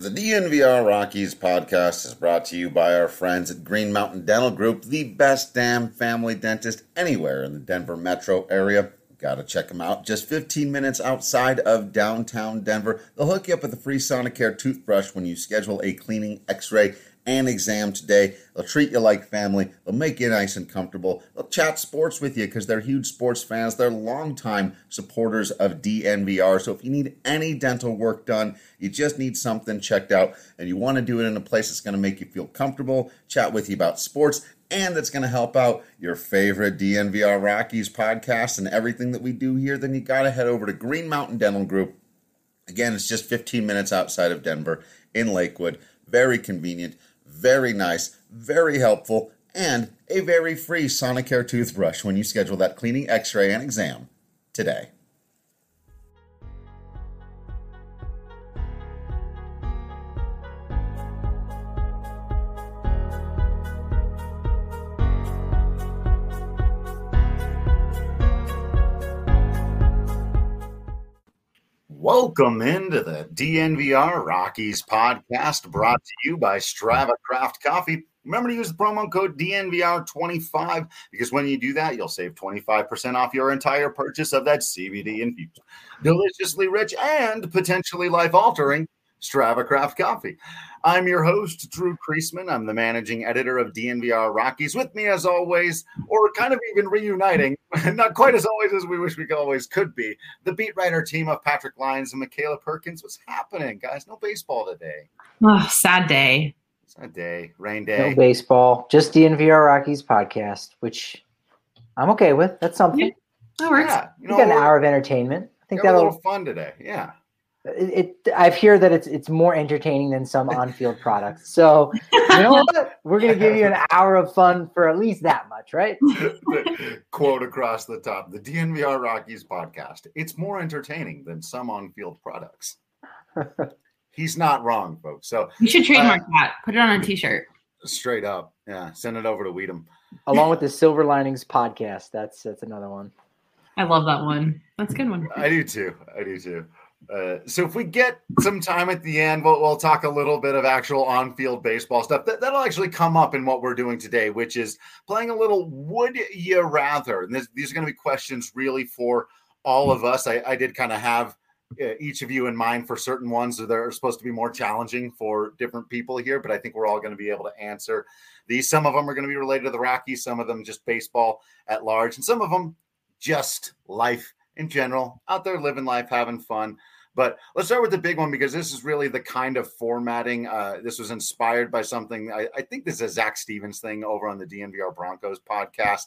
The DNVR Rockies podcast is brought to you by our friends at Green Mountain Dental Group, the best damn family dentist anywhere in the Denver metro area. Gotta check them out. Just 15 minutes outside of downtown Denver. They'll hook you up with a free Sonicare toothbrush when you schedule a cleaning, x-ray, and exam today. They'll treat you like family. They'll make you nice and comfortable. They'll chat sports with you because they're huge sports fans. They're longtime supporters of DNVR. So if you need any dental work done, you just need something checked out, and you want to do it in a place that's going to make you feel comfortable, chat with you about sports, and that's going to help out your favorite DNVR Rockies podcast and everything that we do here, then you got to head over to Green Mountain Dental Group. Again, it's just 15 minutes outside of Denver in Lakewood. Very convenient, very nice, very helpful, and a very free Sonicare toothbrush when you schedule that cleaning, x-ray, and exam today. Welcome into the DNVR Rockies podcast, brought to you by Strava Craft Coffee. Remember to use the promo code DNVR25 because when you do that, you'll save 25% off your entire purchase of that CBD infused, deliciously rich, and potentially life-altering Strava Craft Coffee. I'm your host, Drew Kreisman. I'm the managing editor of DNVR Rockies. With me, as always, or kind of even reuniting, not quite as always as we wish we could be, the beat writer team of Patrick Lyons and Michaela Perkins. What's happening, guys? No baseball today. Oh, sad day. Sad day. Rain day. No baseball. Just DNVR Rockies podcast, which I'm okay with. That's something. Yeah, that works. Yeah, You got an hour of entertainment. I think got a that'll little fun today. Yeah. I hear that it's more entertaining than some on-field products. So you know what? We're gonna give you an hour of fun for at least that much, right? Quote across the top: the DNVR Rockies podcast. It's more entertaining than some on-field products. He's not wrong, folks. So you should trademark that. Put it on a t-shirt. Straight up, yeah. Send it over to Weedham. Along with the Silver Linings podcast. That's another one. I love that one. That's a good one. I do too. So if we get some time at the end, we'll talk a little bit of actual on-field baseball stuff. That'll actually come up in what we're doing today, which is playing a little Would You Rather. And these are going to be questions really for all of us. I did kind of have each of you in mind for certain ones that are supposed to be more challenging for different people here, but I think we're all going to be able to answer these. Some of them are going to be related to the Rockies, some of them just baseball at large, and some of them just life in general, out there living life, having fun. But let's start with the big one because this is really the kind of formatting. This was inspired by something. I think this is a Zach Stevens thing over on the DNVR Broncos podcast.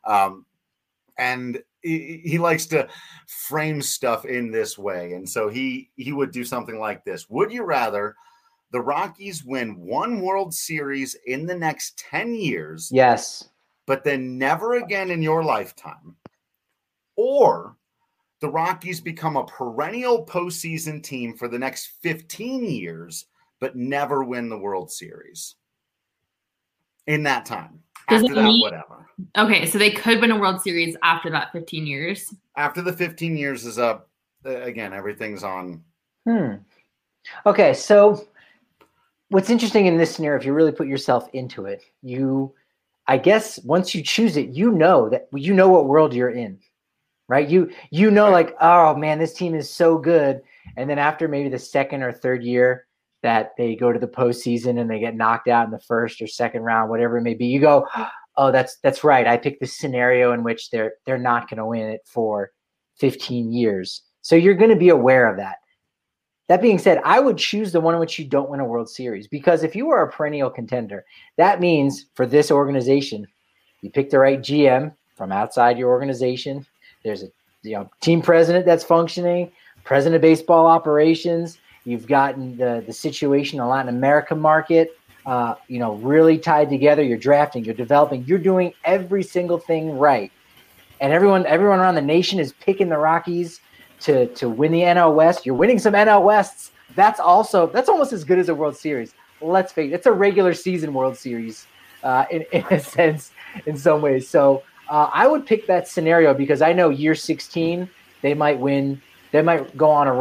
And he likes to frame stuff in this way. And so he would do something like this. Would you rather the Rockies win one World Series in the next 10 years? Yes. But then never again in your lifetime? Or the Rockies become a perennial postseason team for the next 15 years, but never win the World Series in that time. After that, whatever. Okay, so they could win a World Series after that 15 years. After the 15 years is up, again, everything's on. Okay, so what's interesting in this scenario, if you really put yourself into it, I guess once you choose it, you know what world you're in. Right. You know, like, oh man, this team is so good. And then after maybe the second or third year that they go to the postseason and they get knocked out in the first or second round, whatever it may be, you go, oh, that's right. I picked this scenario in which they're not going to win it for 15 years. So you're going to be aware of that. That being said, I would choose the one in which you don't win a World Series, because if you are a perennial contender, that means for this organization, you pick the right GM from outside your organization. There's a team president that's functioning, president of baseball operations. You've gotten the situation in the Latin America market, really tied together. You're drafting, you're developing, you're doing every single thing right. And everyone around the nation is picking the Rockies to win the NL West. You're winning some NL Wests. That's almost as good as a World Series. Let's face it, it's a regular season World Series in a sense, in some ways. So I would pick that scenario because I know year 16, they might win. They might go on a run.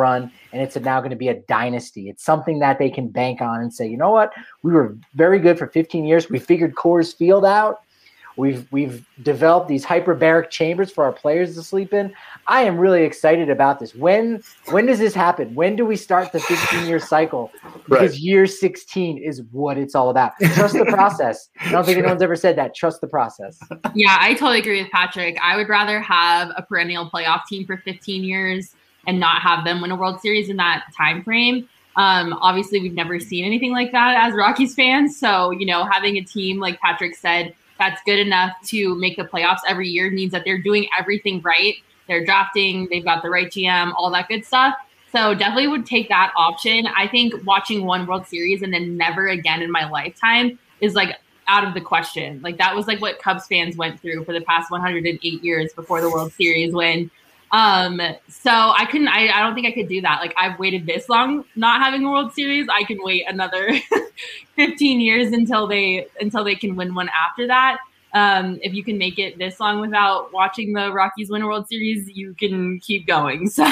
and it's now going to be a dynasty. It's something that they can bank on and say, you know what, we were very good for 15 years. We figured Coors Field out. We've developed these hyperbaric chambers for our players to sleep in. I am really excited about this. When does this happen? When do we start the 15-year cycle? Because year 16 is what it's all about. Trust the process. I don't think anyone's ever said that. Trust the process. Yeah, I totally agree with Patrick. I would rather have a perennial playoff team for 15 years and not have them win a World Series in that time frame. Obviously, we've never seen anything like that as Rockies fans. So, having a team, like Patrick said, that's good enough to make the playoffs every year means that they're doing everything right. They're drafting, they've got the right GM, all that good stuff. So definitely would take that option. I think watching one World Series and then never again in my lifetime is like out of the question. Like that was like what Cubs fans went through for the past 108 years before the World Series win. So I don't think I could do that. Like I've waited this long not having a World Series. I can wait another 15 years until they can win one after that. If you can make it this long without watching the Rockies win a World Series, you can keep going. So,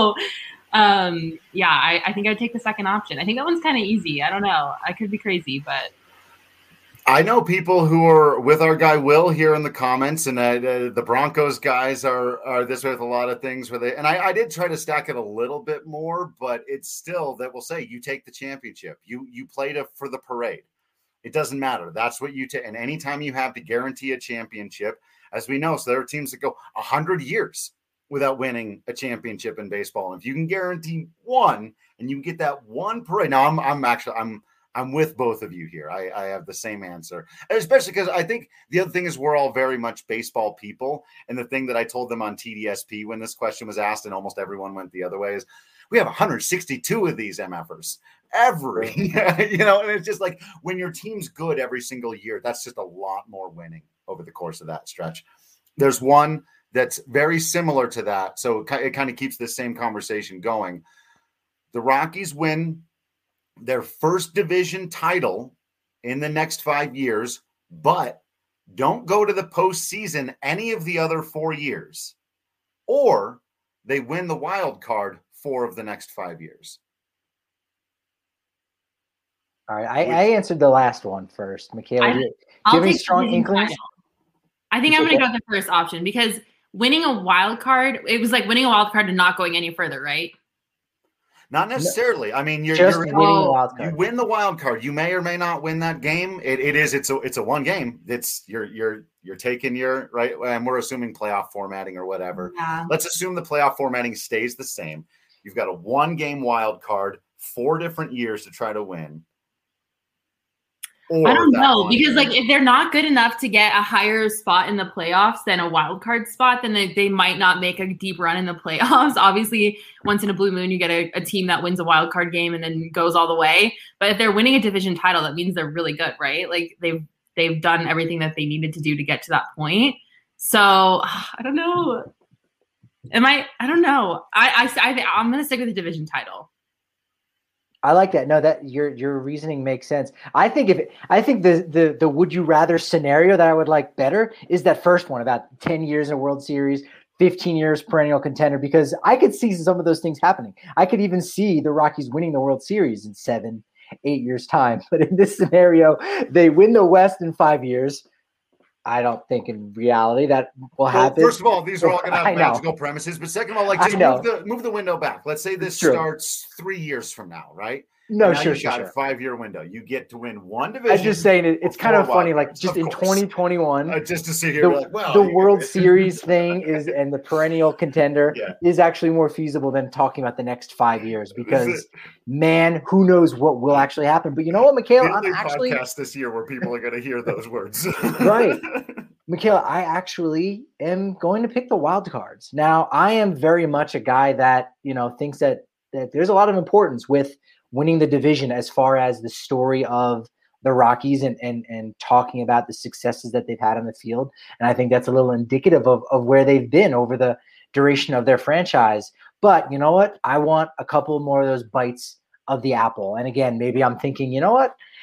I think I'd take the second option. I think that one's kind of easy. I don't know. I could be crazy, but I know people who are with our guy Will here in the comments, and the Broncos guys are this way with a lot of things. And I did try to stack it a little bit more, but it's still that will say you take the championship. You played for the parade. It doesn't matter. That's what you take. And anytime you have to guarantee a championship, as we know, so there are teams that go 100 years without winning a championship in baseball. And if you can guarantee one, and you get that one parade. Now I'm with both of you here. I have the same answer, and especially because I think the other thing is we're all very much baseball people. And the thing that I told them on TDSP when this question was asked, and almost everyone went the other way, is we have 162 of these MFers every, and it's just like when your team's good every single year, that's just a lot more winning over the course of that stretch. There's one that's very similar to that. So it kind of keeps this same conversation going. The Rockies win their first division title in the next 5 years, but don't go to the postseason any of the other 4 years, or they win the wild card 4 of the next 5 years. All right. I answered the last one first. Michaela, do you have any strong inklings? I think I'm going to go with the first option because winning a wild card, it was like winning a wild card and not going any further, right? Not necessarily. I mean, winning the wild card. You win the wild card. You may or may not win that game. It's a one game. It's you're taking your right, and we're assuming playoff formatting or whatever. Yeah. Let's assume the playoff formatting stays the same. You've got a 1 game wild card, 4 different years to try to win. I don't know because like if they're not good enough to get a higher spot in the playoffs than a wild card spot, then they might not make a deep run in the playoffs. Obviously, once in a blue moon, you get a team that wins a wild card game and then goes all the way. But if they're winning a division title, that means they're really good, right? Like they've done everything that they needed to do to get to that point. So I don't know. I don't know. I'm going to stick with the division title. I like that. No, that your reasoning makes sense. I think the would you rather scenario that I would like better is that first one about 10 years in a World Series, 15 years perennial contender, because I could see some of those things happening. I could even see the Rockies winning the World Series in 7-8 years time. But in this scenario, they win the West in 5 years. I don't think in reality that will happen. First of all, these are all going to have magical premises. But second of all, like just move the window back. Let's say this starts 3 years from now, right? No, sure. You got a 5-year window. You get to win one division. I'm just saying it's kind of funny. Like just in 2021, just to sit here, the World Series thing is, and the perennial contender is actually more feasible than talking about the next 5 years because, man, who knows what will actually happen? But you know what, Michaela, I'm actually podcast this year where people are going to hear those words, right? Michaela, I actually am going to pick the wild cards. Now, I am very much a guy that thinks that there's a lot of importance with winning the division as far as the story of the Rockies and talking about the successes that they've had on the field. And I think that's a little indicative of where they've been over the duration of their franchise. But you know what? I want a couple more of those bites of the apple. And again, maybe I'm thinking, you know what?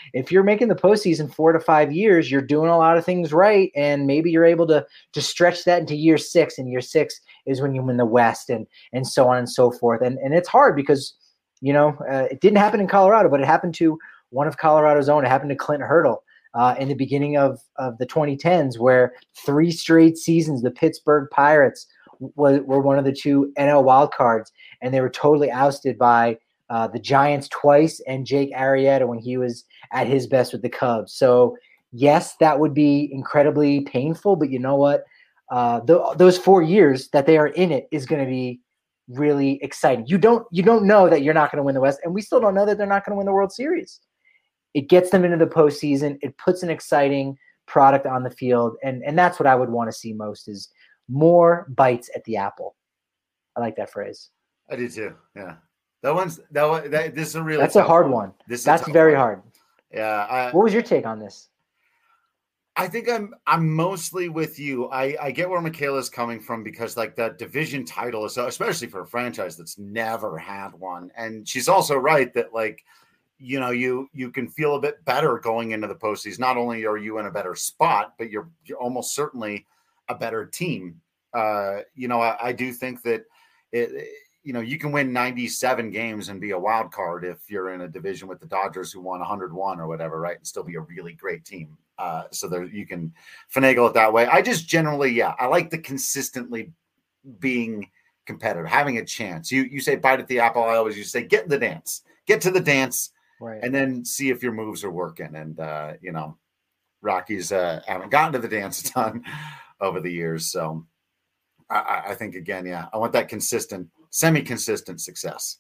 if you're making the postseason 4 to 5 years, you're doing a lot of things right. And maybe you're able to stretch that into year 6. And year 6 is when you win the West and so on and so forth. And it's hard because, it didn't happen in Colorado, but it happened to one of Colorado's own. It happened to Clint Hurdle in the beginning of the 2010s, where 3 straight seasons, the Pittsburgh Pirates were one of the 2 NL wildcards, and they were totally ousted by the Giants twice and Jake Arrieta when he was at his best with the Cubs. So, yes, that would be incredibly painful, but you know what? Those 4 years that they are in it is going to be really exciting. You don't know that you're not going to win the West, and we still don't know that they're not going to win the World Series. It gets them into the postseason. It puts an exciting product on the field, and that's what I would want to see most is more bites at the apple. I like that phrase. I do too. Yeah, this is a really that's a hard one. That's very hard. Yeah. What was your take on this? I think I'm mostly with you. I get where Michaela's coming from because like that division title is, especially for a franchise that's never had one. And she's also right that like, you can feel a bit better going into the postseason. Not only are you in a better spot, but you're almost certainly a better team. I do think that you can win 97 games and be a wild card if you're in a division with the Dodgers who won 101 or whatever, right? And still be a really great team. So there you can finagle it that way. I just generally, I like the consistently being competitive, having a chance. You say bite at the apple. I always used to say get to the dance, right, and then see if your moves are working. And Rockies haven't gotten to the dance a ton over the years, so I think again, I want that consistent, semi-consistent success.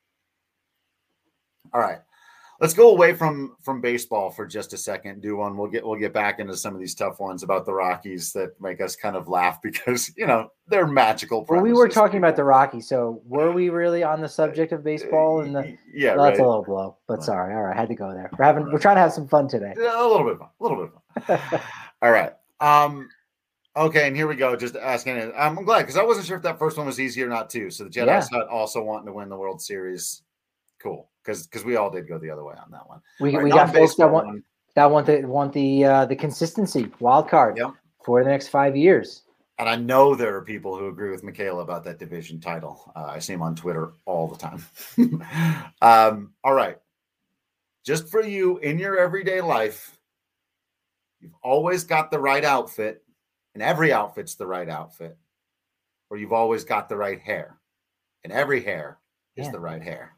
All right. Let's go away from baseball for just a second. Do one. We'll get back into some of these tough ones about the Rockies that make us kind of laugh because they're magical. Well, we were talking about the Rockies, so were we really on the subject of baseball? And yeah, well, that's a little blow, but sorry. All right, I had to go there. We're trying to have some fun today. A little bit of fun. All right. Okay, and here we go. Just asking. I'm glad because I wasn't sure if that first one was easy or not too. So the Jedi Hut also wanting to win the World Series. Cool. Because we all did go the other way on that one. We got folks that want the consistency wild card for the next 5 years. And I know there are people who agree with Michaela about that division title. I see them on Twitter all the time. All right. Just for you in your everyday life, you've always got the right outfit, and every outfit's the right outfit, or you've always got the right hair, and every hair is the right hair.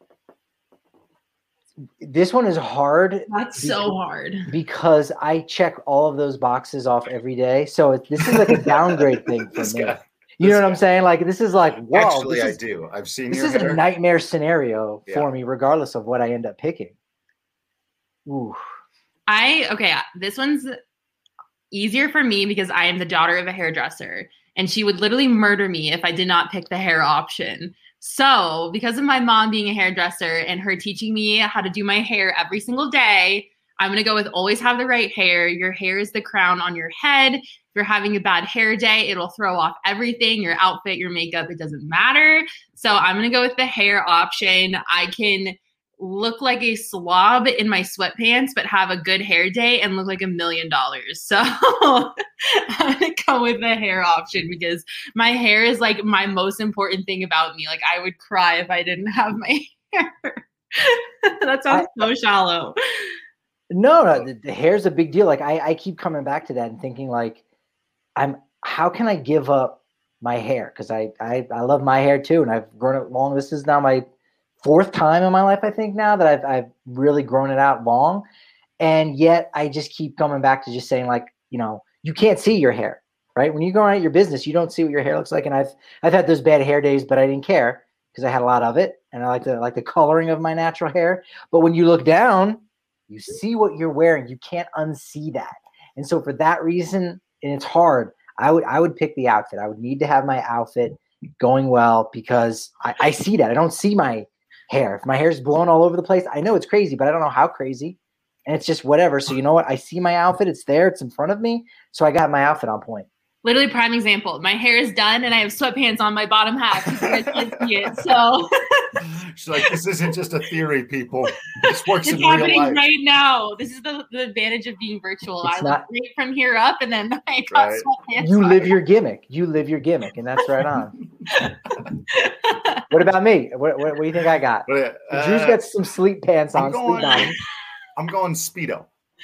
This one is hard. That's so hard. Because I check all of those boxes off every day. So this is like a downgrade thing for me. You know what I'm saying? Like this is like, whoa. Actually, I do. I've seen this is a nightmare scenario for me, regardless of what I end up picking. Ooh. This one's easier for me because I am the daughter of a hairdresser, and she would literally murder me if I did not pick the hair option. So because of my mom being a hairdresser and her teaching me how to do my hair every single day, I'm going to go with always have the right hair. Your hair is the crown on your head. If you're having a bad hair day, it'll throw off everything, your outfit, your makeup, it doesn't matter. So I'm going to go with the hair option. I can look like a slob in my sweatpants, but have a good hair day and look like $1 million. So I'm going to go with the hair option because my hair is like my most important thing about me. Like I would cry if I didn't have my hair. That sounds so shallow. No, the hair's a big deal. Like I keep coming back to that and thinking like, how can I give up my hair? Cause I love my hair too. And I've grown it long. This is now my 4th time in my life, I think now that I've really grown it out long. And yet I just keep coming back to just saying like, you can't see your hair, right? When you go out your business, you don't see what your hair looks like. And I've had those bad hair days, but I didn't care because I had a lot of it. And I like the coloring of my natural hair. But when you look down, you see what you're wearing. You can't unsee that. And so for that reason, and it's hard, I would pick the outfit. I would need to have my outfit going well because I see that. I don't see my hair. If my hair's blown all over the place, I know it's crazy, but I don't know how crazy. And it's just whatever. So you know what? I see my outfit. It's there. It's in front of me. So I got my outfit on point. Literally prime example. My hair is done and I have sweatpants on my bottom half. You guys can't see it. So She's like, this isn't just a theory, people. This works It's in real happening life. right now. This is the advantage of being virtual. It's I not- look great from here up, and then I got Right. sweatpants. You live your gimmick. You live your gimmick, and that's right on. What about me? What do you think I got? But, Drew's got some sleep pants on, sleep bottoms. I'm going Speedo.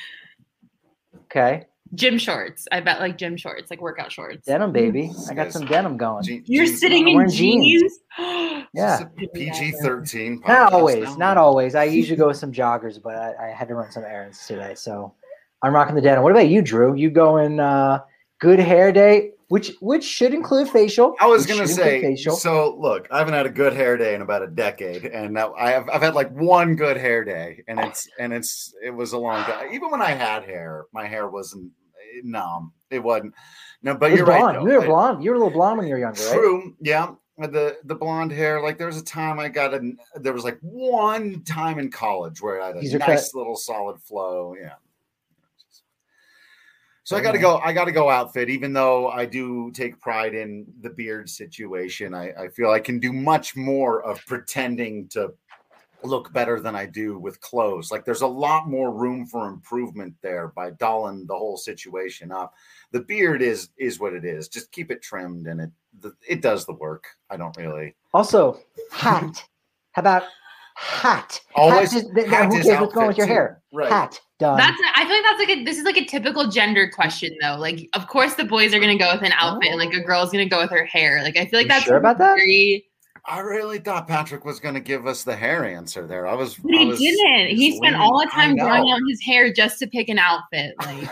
Okay. Gym shorts. I bet like gym shorts, like workout shorts. Denim, baby. I got some denim going. You're Jeans sitting on. in wearing jeans. jeans. Yeah. PG-13 podcast. Not always. now. Not always. I usually go with some joggers, but I had to run some errands today. So I'm rocking the denim. What about you, Drew? You going good hair day, which should include facial. I was Which gonna should say. include facial. So look, I haven't had a good hair day in about a decade, and now I've had like one good hair day, and it was a long time. Even when I had hair, my hair wasn't. No, it wasn't. No, but It was you're blonde. right. Though. You were blonde. You were a little blonde when you were younger, right? True. Yeah. The blonde hair. Like there was a time there was like one time in college where I had a Teaser nice cut. little solid flow. Yeah. So Very I got to go outfit, even though I do take pride in the beard situation. I feel I can do much more of pretending to look better than I do with clothes. Like there's a lot more room for improvement there by dolling the whole situation up. The beard is what it is. Just keep it trimmed, and it does the work. I don't really. Also, hat. How about hat? Always. Hat Hat who cares is what's going with your outfit, hair? too. Right. Hat. Done. I feel like that's like this is like a typical gender question though. Like, of course the boys are gonna go with an outfit, and like a girl's gonna go with her hair. Like, I feel like You that's sure about that? very. I really thought Patrick was going to give us the hair answer there. But he didn't. He spent all the time growing out his hair just to pick an outfit. Like,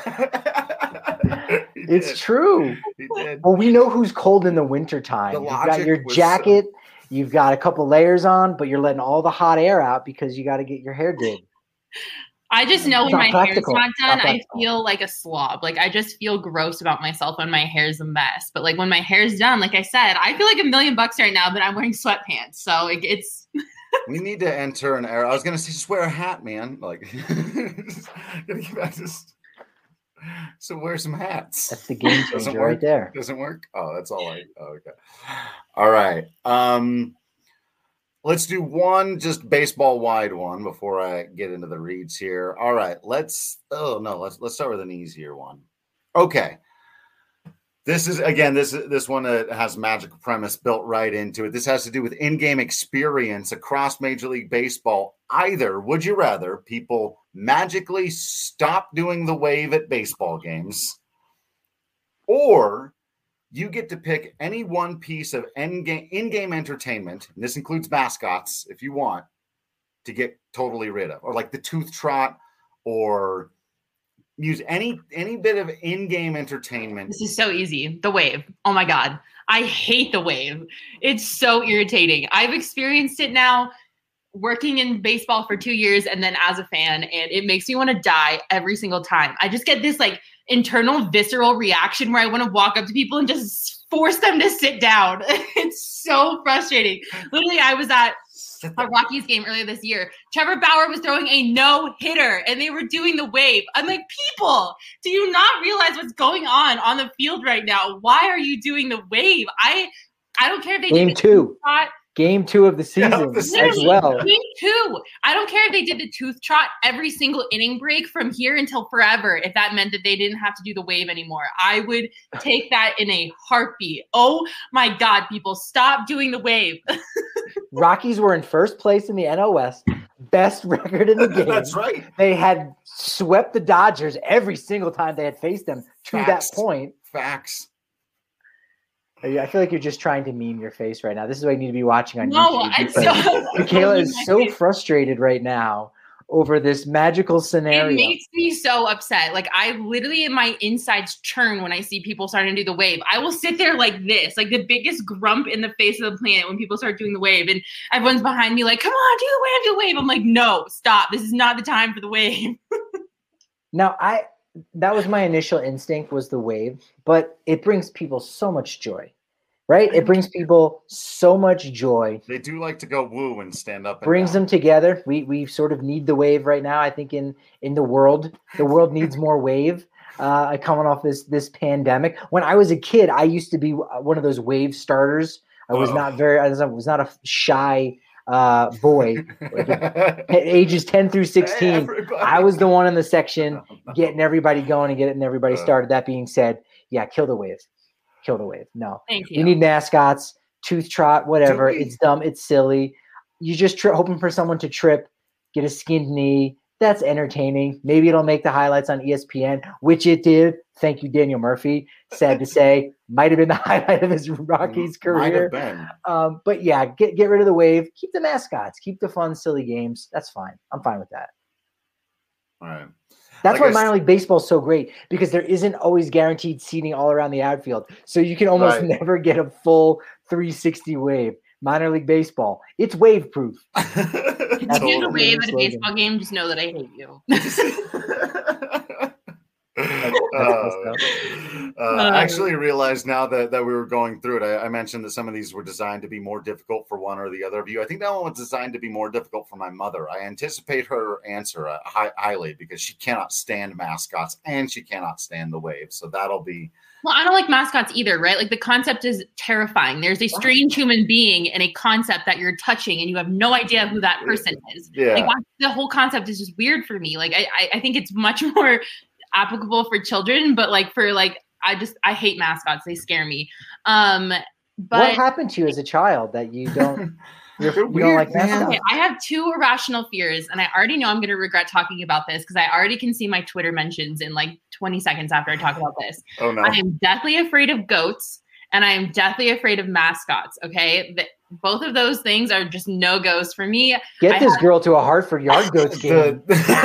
It's true. He did. Well, we know who's cold in the wintertime. The You've got logic your was jacket, you've got a couple layers on, but you're letting all the hot air out because you got to get your hair did. I just know It's when not my practical. hair's not done, Not I practical. feel like a slob. Like I just feel gross about myself when my hair's a mess. But like when my hair's done, like I said, I feel like $1 million right now, but I'm wearing sweatpants. So like, it's We need to enter an era. I was going to say, just wear a hat, man. Like, gotta get back to. So wear some hats. That's the game Doesn't changer work? right there. Doesn't work? Oh, that's all I. Oh, okay. All right. Let's do one just baseball wide one before I get into the reads here. All right. Let's start with an easier one. Okay. This is again, this one has magical premise built right into it. This has to do with in-game experience across Major League Baseball. Either would you rather people magically stop doing the wave at baseball games, or you get to pick any one piece of in-game entertainment, and this includes mascots if you want, to get totally rid of, or like the tooth trot, or use any bit of in-game entertainment. This is so easy. The wave. Oh my God. I hate the wave. It's so irritating. I've experienced it now working in baseball for 2 years and then as a fan, and it makes me want to die every single time. I just get this like internal visceral reaction where I want to walk up to people and just force them to sit down. It's so frustrating. Literally, I was at a Rockies game earlier this year. Trevor Bauer was throwing a no-hitter and they were doing the wave. I'm like, people, do you not realize what's going on the field right now? Why are you doing the wave? I don't care if they Game did two. trot. Game 2 of the season as well. Game 2. I don't care if they did the tooth trot every single inning break from here until forever if that meant that they didn't have to do the wave anymore. I would take that in a heartbeat. Oh my God, people, stop doing the wave. Rockies were in first place in the NL West, best record in the game. That's right. They had swept the Dodgers every single time they had faced them to Facts. that point. Facts. I feel like you're just trying to meme your face right now. This is what you need to be watching on No, YouTube. it's because so Michaela is so frustrated right now over this magical scenario. It makes me so upset. Like I literally, my insides churn when I see people starting to do the wave. I will sit there like this, like the biggest grump in the face of the planet when people start doing the wave, and everyone's behind me like, "Come on, do the wave, do the wave." I'm like, "No, stop! This is not the time for the wave." Now, that was my initial instinct, was the wave, but it brings people so much joy, right? It brings people so much joy. They do like to go woo and stand up. And Brings down. them together. We sort of need the wave right now. I think in the world needs more wave. Coming off this pandemic. When I was a kid, I used to be one of those wave starters. I was not a shy boy, ages 10 through 16. I was the one in the section getting everybody going and getting everybody started. That being said, yeah, kill the wave. Kill the wave. No. Thank you. We need mascots, tooth trot, whatever. It's dumb. It's silly. You just hoping for someone to trip, get a skinned knee. That's entertaining. Maybe it'll make the highlights on ESPN, which it did. Thank you, Daniel Murphy. Sad to say, might have been the highlight of his Rockies career. Might have been. But yeah, get rid of the wave. Keep the mascots. Keep the fun, silly games. That's fine. I'm fine with that. All right. That's why minor league baseball is so great, because there isn't always guaranteed seating all around the outfield. So you can almost never get a full 360 wave. Minor league baseball, it's wave proof. If you do a wave at a baseball game, just know that I hate you. I actually realized now that we were going through it, I mentioned that some of these were designed to be more difficult for one or the other of you. I think that one was designed to be more difficult for my mother. I anticipate her answer highly, because she cannot stand mascots and she cannot stand the wave. So that'll be... Well, I don't like mascots either, right? Like, the concept is terrifying. There's a strange human being and a concept that you're touching and you have no idea who that person is. Yeah. Like, the whole concept is just weird for me. Like, I think it's much more applicable for children, but like for like, I hate mascots. They scare me. But what happened to you as a child that you don't... You don't like mascots? Okay, I have two irrational fears, and I already know I'm going to regret talking about this because I already can see my Twitter mentions in like 20 seconds after I talk about this. Oh, no. I am deathly afraid of goats, and I am deathly afraid of mascots, okay? Both of those things are just no-goes for me. Get this girl to a Hartford Yard Goats game.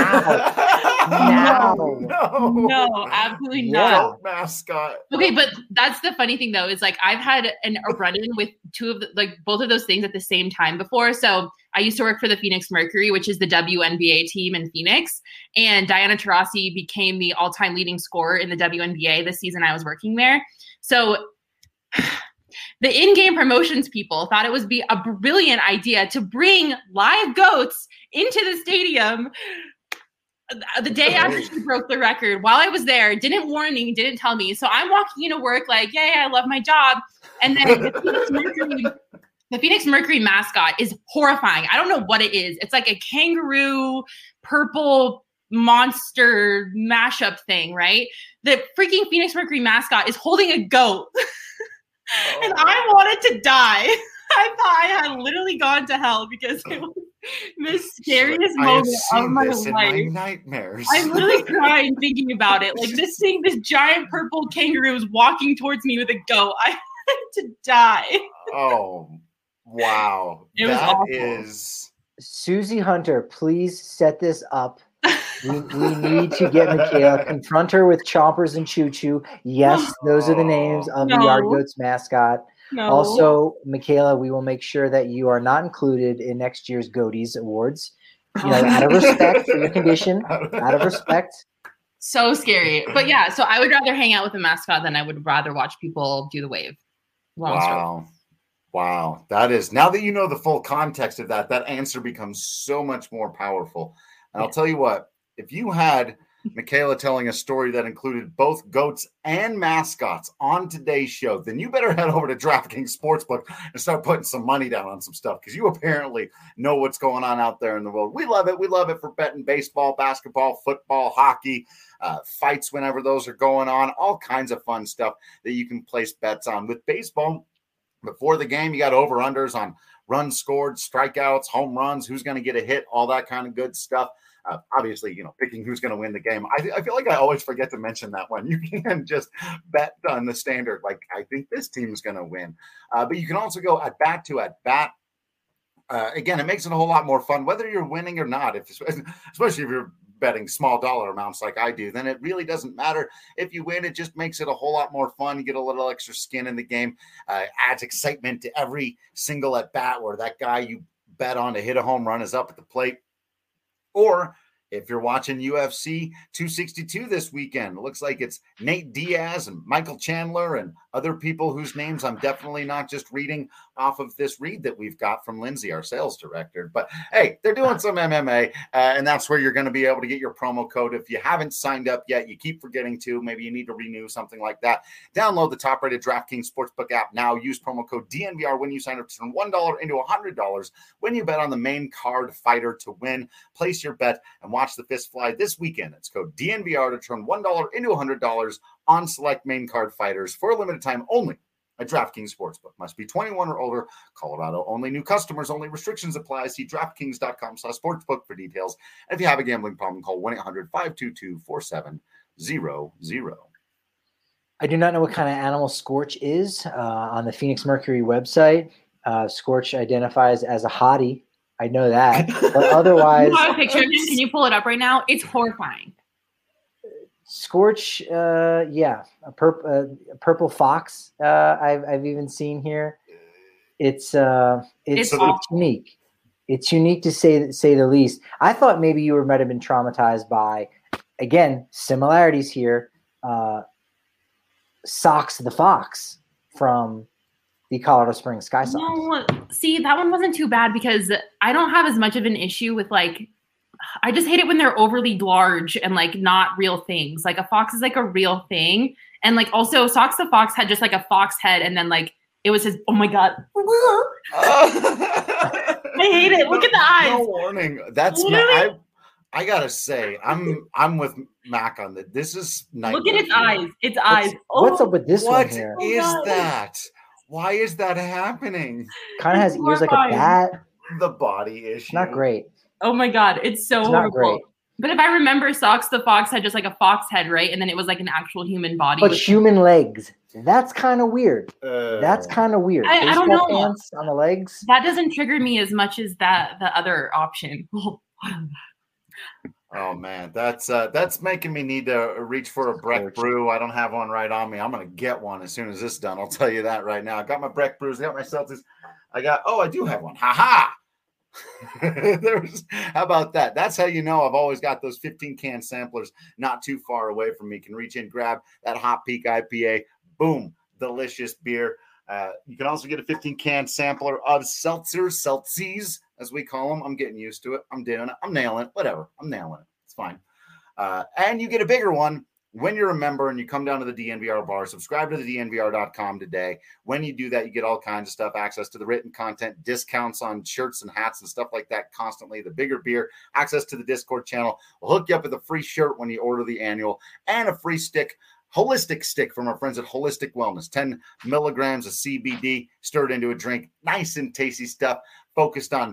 No, absolutely not. Mascot. Okay, but that's the funny thing, though, is like I've had a run-in with both of those things at the same time before. So I used to work for the Phoenix Mercury, which is the WNBA team in Phoenix, and Diana Taurasi became the all-time leading scorer in the WNBA the season I was working there. So the in-game promotions people thought it would be a brilliant idea to bring live goats into the stadium the day after she broke the record. While I was there, didn't warn me, didn't tell me. So I'm walking into work like, yay, I love my job. And then the Phoenix Mercury mascot is horrifying. I don't know what it is. It's like a kangaroo, purple monster mashup thing, right? The freaking Phoenix Mercury mascot is holding a goat. And I wanted to die. I thought I had literally gone to hell because it was the scariest moment of my life. My nightmares. I'm literally crying thinking about it. Like this giant purple kangaroo is walking towards me with a goat. I wanted to die. Oh, wow. It was awful. Susie Hunter, please set this up. We need to get Michaela, confront her with Chompers and Choo Choo. Yes, those are the names of the Yard Goats mascot. No. Also, Michaela, we will make sure that you are not included in next year's Goaties Awards. Out of respect for your condition, out of respect. So scary. But yeah, so I would rather hang out with a mascot than I would rather watch people do the wave. Wow. That is, now that you know the full context of that answer becomes so much more powerful. And I'll tell you what, if you had Michaela telling a story that included both goats and mascots on today's show, then you better head over to DraftKings Sportsbook and start putting some money down on some stuff, because you apparently know what's going on out there in the world. We love it. We love it for betting baseball, basketball, football, hockey, fights whenever those are going on, all kinds of fun stuff that you can place bets on. With baseball, before the game, you got over-unders on runs scored, strikeouts, home runs, who's going to get a hit, all that kind of good stuff. Obviously, picking who's going to win the game. I feel like I always forget to mention that one. You can just bet on the standard, like, I think this team's going to win. But you can also go at bat to at bat. Again, it makes it a whole lot more fun, whether you're winning or not, especially if you're betting small dollar amounts like I do, then it really doesn't matter. If you win, it just makes it a whole lot more fun. You get a little extra skin in the game, adds excitement to every single at bat where that guy you bet on to hit a home run is up at the plate. Or If you're watching UFC 262 this weekend, it looks like it's Nate Diaz and Michael Chandler and other people whose names I'm definitely not just reading off of this read that we've got from Lindsay, our sales director. But hey, they're doing some MMA, and that's where you're going to be able to get your promo code. If you haven't signed up yet, you keep forgetting to, maybe you need to renew, something like that. Download the top-rated DraftKings Sportsbook app now. Use promo code DNVR when you sign up to turn $1 into $100 when you bet on the main card fighter to win. Place your bet and watch the fist fly this weekend. It's code DNVR to turn $1 into $100 on select main card fighters for a limited time only at DraftKings Sportsbook. Must be 21 or older. Colorado only. New customers only. Restrictions apply. See DraftKings.com/sportsbook for details. And if you have a gambling problem, call 1-800-522-4700. I do not know what kind of animal Scorch is. On the Phoenix Mercury website, Scorch identifies as a hottie. I know that, but otherwise, I have a picture of him. Can you pull it up right now? It's horrifying. Scorch, a purple fox. I've even seen here. It's unique. It's unique to say the least. I thought maybe you might have been traumatized by, again, similarities here. Sox the Fox from the Colorado Springs Sky Sox. No, see, that one wasn't too bad because I don't have as much of an issue with I just hate it when they're overly large and not real things. Like a fox is a real thing. And also Sox the Fox had just a fox head and then it was his, oh my God. I hate it. Look at the eyes. No warning. That's I gotta say, I'm with Mac on that. This is nightmare. Look at its eyes. Its eyes. What's up with this one here? What is that? Why is that happening? Kind of has ears like a bat. The body issue. Not great. Oh my God, it's so horrible. Not great. But if I remember, Sox the Fox had just a fox head, right? And then it was an actual human body. But human legs. That's kind of weird. That's kind of weird. I don't know. Pants on the legs. That doesn't trigger me as much as the other option. Oh man, that's making me need to reach for a Breck Brew. I don't have one right on me. I'm gonna get one as soon as this is done. I'll tell you that right now. I got my Breck Brews. I got my Celtics. I do have one. Ha ha. How about that? That's how you know I've always got those 15-can samplers not too far away from me. Can reach in, grab that Hot Peak IPA. Boom, delicious beer. You can also get a 15-can sampler of seltzies, as we call them. I'm getting used to it. I'm doing it. I'm nailing it. Whatever. I'm nailing it. It's fine. And you get a bigger one when you're a member and you come down to the DNVR bar. Subscribe to the DNVR.com today. When you do that, you get all kinds of stuff, access to the written content, discounts on shirts and hats and stuff like that constantly. The bigger beer, access to the Discord channel. We'll hook you up with a free shirt when you order the annual and a free holistic stick from our friends at Holistic Wellness. 10 milligrams of CBD stirred into a drink. Nice and tasty stuff focused on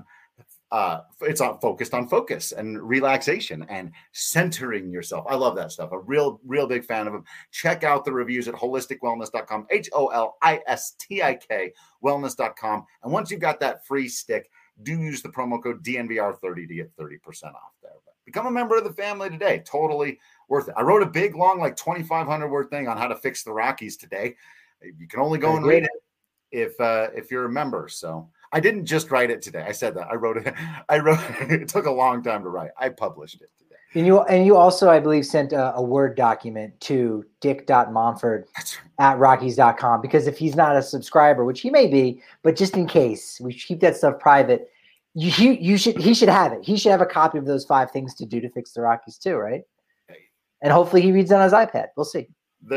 focus and relaxation and centering yourself. I love that stuff. A real big fan of them. Check out the reviews at holisticwellness.com, HOLISTIK wellness.com. And once you've got that free stick, do use the promo code DNVR30 to get 30% off there. But become a member of the family today. Totally worth it. I wrote a big, long, 2,500 word thing on how to fix the Rockies today. You can only go and read it if you're a member. So I didn't just write it today. I said that. I wrote it. It took a long time to write. I published it today. And you also, I believe, sent a Word document to dick.monford@rockies.com, because if he's not a subscriber, which he may be, but just in case, we keep that stuff private. He should have it. He should have a copy of those 5 things to do to fix the Rockies too, right? And hopefully he reads on his iPad. We'll see.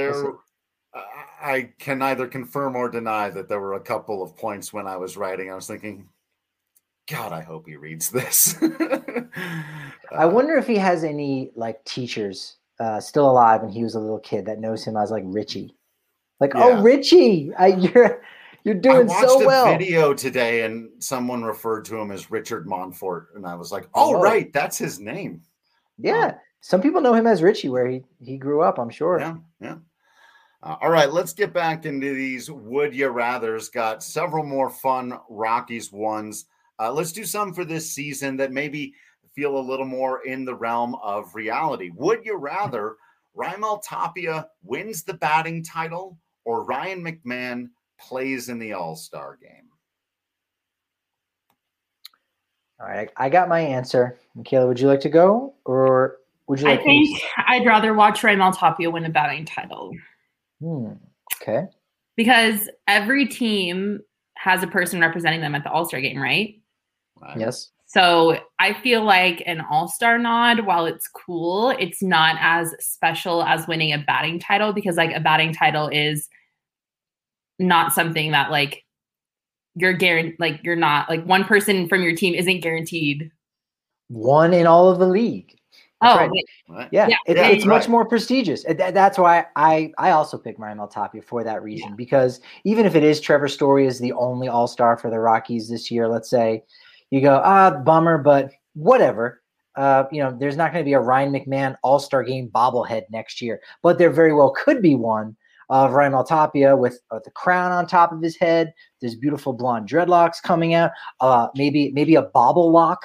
I can neither confirm or deny that there were a couple of points when I was writing. I was thinking, God, I hope he reads this. I wonder if he has any teachers still alive when he was a little kid that knows him as Richie. Oh, Richie, you're doing so well. I watched a video today and someone referred to him as Richard Montfort. And I was like, oh, right, that's his name. Yeah. Some people know him as Richie where he grew up, I'm sure. Yeah. All right, let's get back into these Would You Rathers. Got several more fun Rockies ones. Let's do some for this season that maybe feel a little more in the realm of reality. Would you rather Raimel Tapia wins the batting title or Ryan McMahon plays in the All-Star game? All right, I got my answer. Michaela, would you like to go, or would you like? I think I'd rather watch Raimel Tapia win a batting title. Okay. Because every team has a person representing them at the All-Star game, right? Yes. So I feel like an All-Star nod, while it's cool, it's not as special as winning a batting title, because like a batting title is not something that like you're not like one person from your team isn't guaranteed one in all of the league. That's right. Yeah. It's much more prestigious. That's why I also picked Raimel Tapia for that reason, because even if it is Trevor Story is the only All-Star for the Rockies this year, let's say, you go, bummer, but whatever. There's not going to be a Ryan McMahon All-Star game bobblehead next year, but there very well could be one of Raimel Tapia with the crown on top of his head. There's beautiful blonde dreadlocks coming out. Maybe a bobble lock.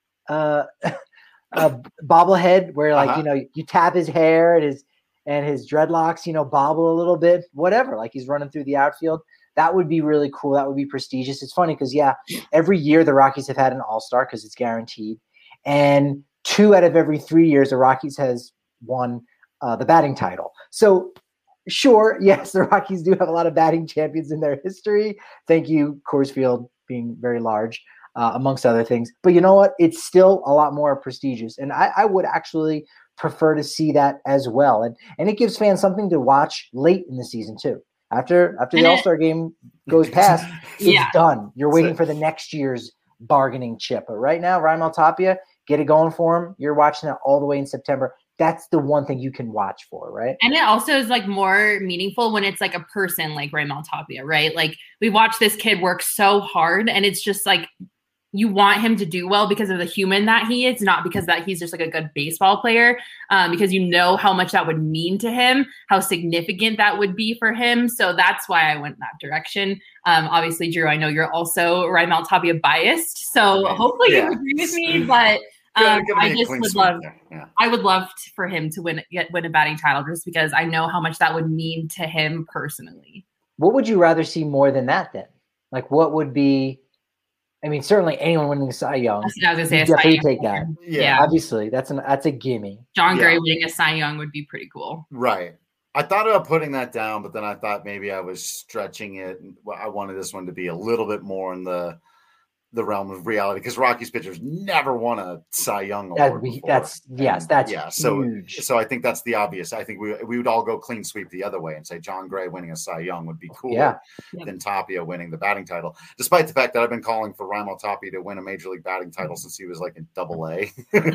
A bobblehead where you tap his hair and his dreadlocks, bobble a little bit, whatever, like he's running through the outfield. That would be really cool. That would be prestigious. It's funny because every year the Rockies have had an All-Star because it's guaranteed. And 2 out of every 3 years the Rockies has won the batting title. So sure, yes, the Rockies do have a lot of batting champions in their history. Thank you, Coors Field being very large. Amongst other things. But you know what? It's still a lot more prestigious. And I would actually prefer to see that as well. And it gives fans something to watch late in the season too. After the All-Star game goes past, it's done. You're waiting for the next year's bargaining chip. But right now, Raimel Tapia, get it going for him. You're watching that all the way in September. That's the one thing you can watch for, right? And it also is like more meaningful when it's like a person like Raimel Tapia, right? Like we watch this kid work so hard, and it's just like, you want him to do well because of the human that he is, not because that he's just like a good baseball player, because you know how much that would mean to him, how significant that would be for him. So that's why I went in that direction. Obviously, Drew, I know you're also Raimel Tapia biased, so hopefully you agree with me. But I just would love, I would love for him to win a batting title, just because I know how much that would mean to him personally. What would you rather see more than that then? Like, what would be? I mean, certainly anyone winning a Cy Young. That's what I was going to say. Definitely take that. Yeah. Obviously, that's a gimme. John Gray winning a Cy Young would be pretty cool. Right. I thought about putting that down, but then I thought maybe I was stretching it. I wanted this one to be a little bit more in the realm of reality, because Rockies pitchers never won a Cy Young award before. That's huge. So I think that's the obvious. I think we would all go clean sweep the other way and say John Gray winning a Cy Young would be cooler than Tapia winning the batting title, despite the fact that I've been calling for Raimel Tapia to win a major league batting title since he was like in Double-A.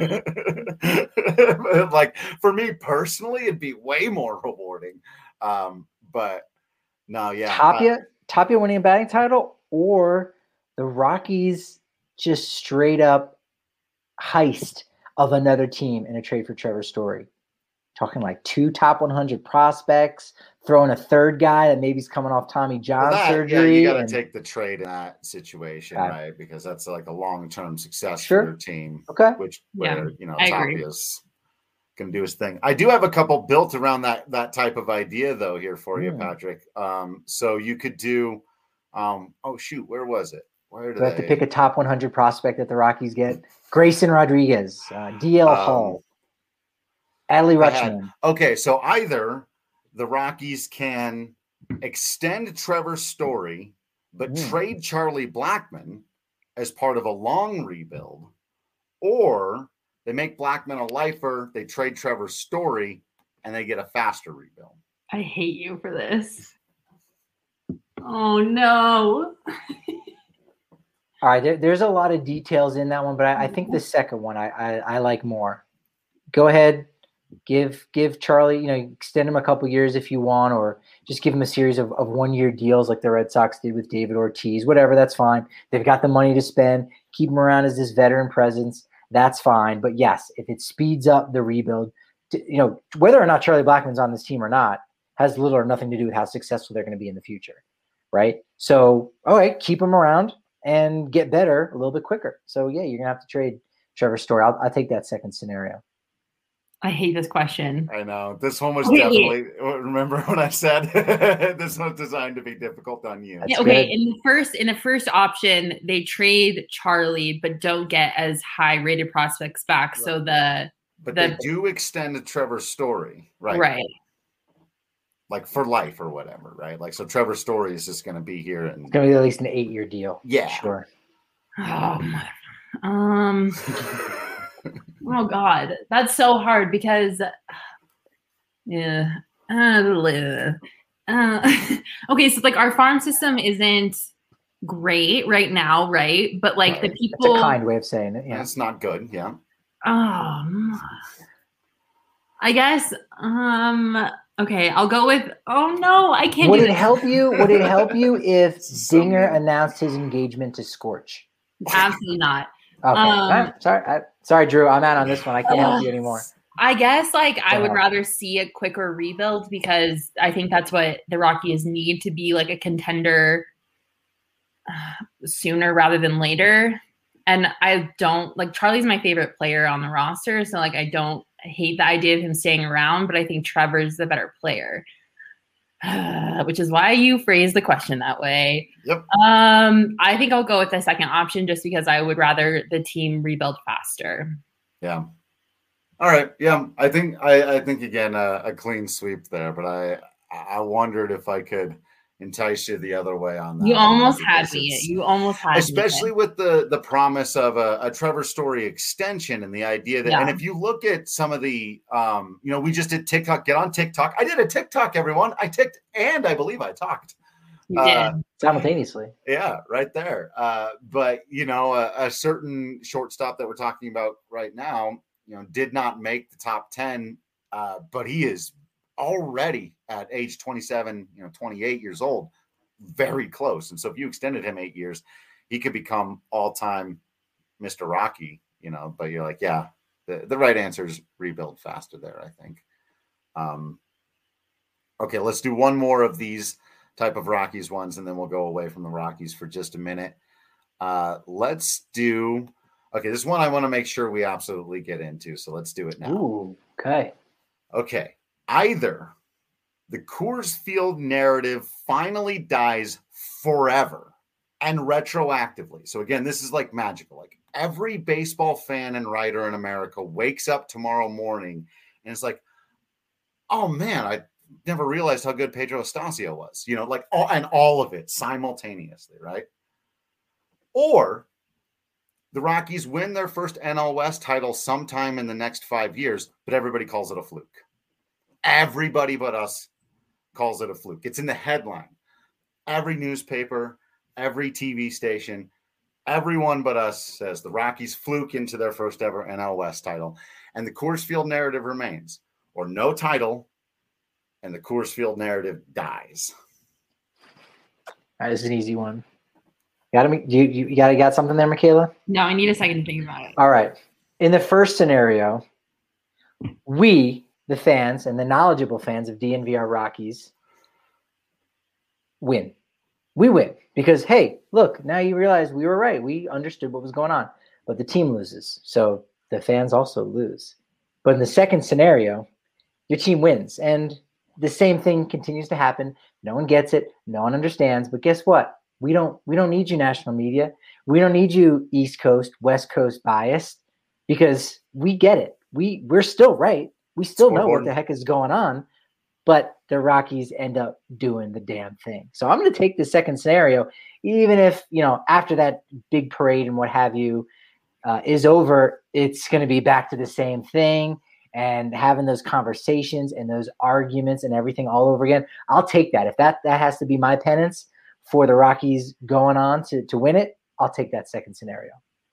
Like for me personally, it'd be way more rewarding. But no, Tapia winning a batting title, or the Rockies just straight up heist of another team in a trade for Trevor Story. Talking like 2 top 100 prospects, throwing a third guy that maybe is coming off Tommy John surgery. You got to take the trade in that situation, right? Because that's like a long-term success for your team. Okay. Where Tapia's going to do his thing. I do have a couple built around that type of idea though here for you, Patrick. So you could do. Where was it? Do I have to pick a top 100 prospect that the Rockies get? Grayson Rodriguez, DL Hall, Adley Rutschman. Okay, so either the Rockies can extend Trevor Story, but trade Charlie Blackmon as part of a long rebuild, or they make Blackmon a lifer, they trade Trevor Story, and they get a faster rebuild. I hate you for this. Oh, no. All right, there's a lot of details in that one, but I think the second one I like more. Go ahead, give Charlie, extend him a couple years if you want, or just give him a series of 1-year deals like the Red Sox did with David Ortiz. Whatever, that's fine. They've got the money to spend. Keep him around as this veteran presence. That's fine. But yes, if it speeds up the rebuild, whether or not Charlie Blackmon's on this team or not has little or nothing to do with how successful they're going to be in the future, right? So, all right, keep him around and get better a little bit quicker. So, yeah, you're going to have to trade Trevor Story. I'll take that second scenario. I hate this question. I know. This one was Wait. definitely, remember when I said this was designed to be difficult on you? Yeah, okay, in the first option, they trade Charlie, but don't get as high rated prospects back. So they do extend a Trevor Story, right? Right. Like for life or whatever, right? Like, so Trevor Story is just going to be here. And it's going to be at least an 8-year deal. Yeah. Sure. Oh God, that's so hard because, okay, so like our farm system isn't great right now, right? But like the people, it's a kind way of saying it. Yeah, it's not good. Yeah. I guess. Okay, I'll go with. Oh no, I can't. Would it help you? Would it help you if Dinger announced his engagement to Scorch? Absolutely not. Okay. Sorry, Drew. I'm out on this one. I can't help you anymore. I guess I would rather see a quicker rebuild because I think that's what the Rockies need to be like a contender sooner rather than later. And I don't like Charlie's my favorite player on the roster. So like, I hate the idea of him staying around, but I think Trevor's the better player. Which is why you phrased the question that way. Yep. I think I'll go with the second option just because I would rather the team rebuild faster. Yeah. All right. Yeah. I think again a clean sweep there, but I wondered if I could entice you the other way on that. You almost had me. You almost had especially me. With the promise of a Trevor Story extension and the idea that, and if you look at some of the, we just did TikTok, get on TikTok. I did a TikTok, everyone. I ticked and I believe I talked. You did. Simultaneously. Yeah, right there. But, a certain shortstop that we're talking about right now, did not make the top 10, but he is already at age 27, 28 years old, very close. And so if you extended him 8 years, he could become all-time Mr. Rocky, but you're like, yeah, the right answer is rebuild faster there, I think. Okay, let's do one more of these type of Rockies ones, and then we'll go away from the Rockies for just a minute. Let's do, this one I want to make sure we absolutely get into. So let's do it now. Ooh, okay. Okay. Either the Coors Field narrative finally dies forever and retroactively. So again, this is like magical. Like every baseball fan and writer in America wakes up tomorrow morning and it's like, oh man, I never realized how good Pedro Estacio was, all of it simultaneously, right? Or the Rockies win their first NL West title sometime in the next 5 years, but everybody calls it a fluke. Everybody but us calls it a fluke. It's in the headline. Every newspaper, every TV station, everyone but us says the Rockies fluke into their first ever NL West title. And the Coors Field narrative remains, or no title, and the Coors Field narrative dies. That is an easy one. You got something there, Michaela? No, I need a second to think about it. All right. In the first scenario, we, the fans and the knowledgeable fans of DNVR Rockies, win. We win because, hey, look, now you realize we were right. We understood what was going on, but the team loses. So the fans also lose. But in the second scenario, your team wins. And the same thing continues to happen. No one gets it. No one understands. But guess what? We don't need you, national media. We don't need you, East Coast, West Coast biased, because we get it. We're still right. We still know what the heck is going on, but the Rockies end up doing the damn thing. So I'm going to take the second scenario, even if, after that big parade and what have you is over, it's going to be back to the same thing and having those conversations and those arguments and everything all over again. I'll take that. If that has to be my penance for the Rockies going on to win it, I'll take that second scenario.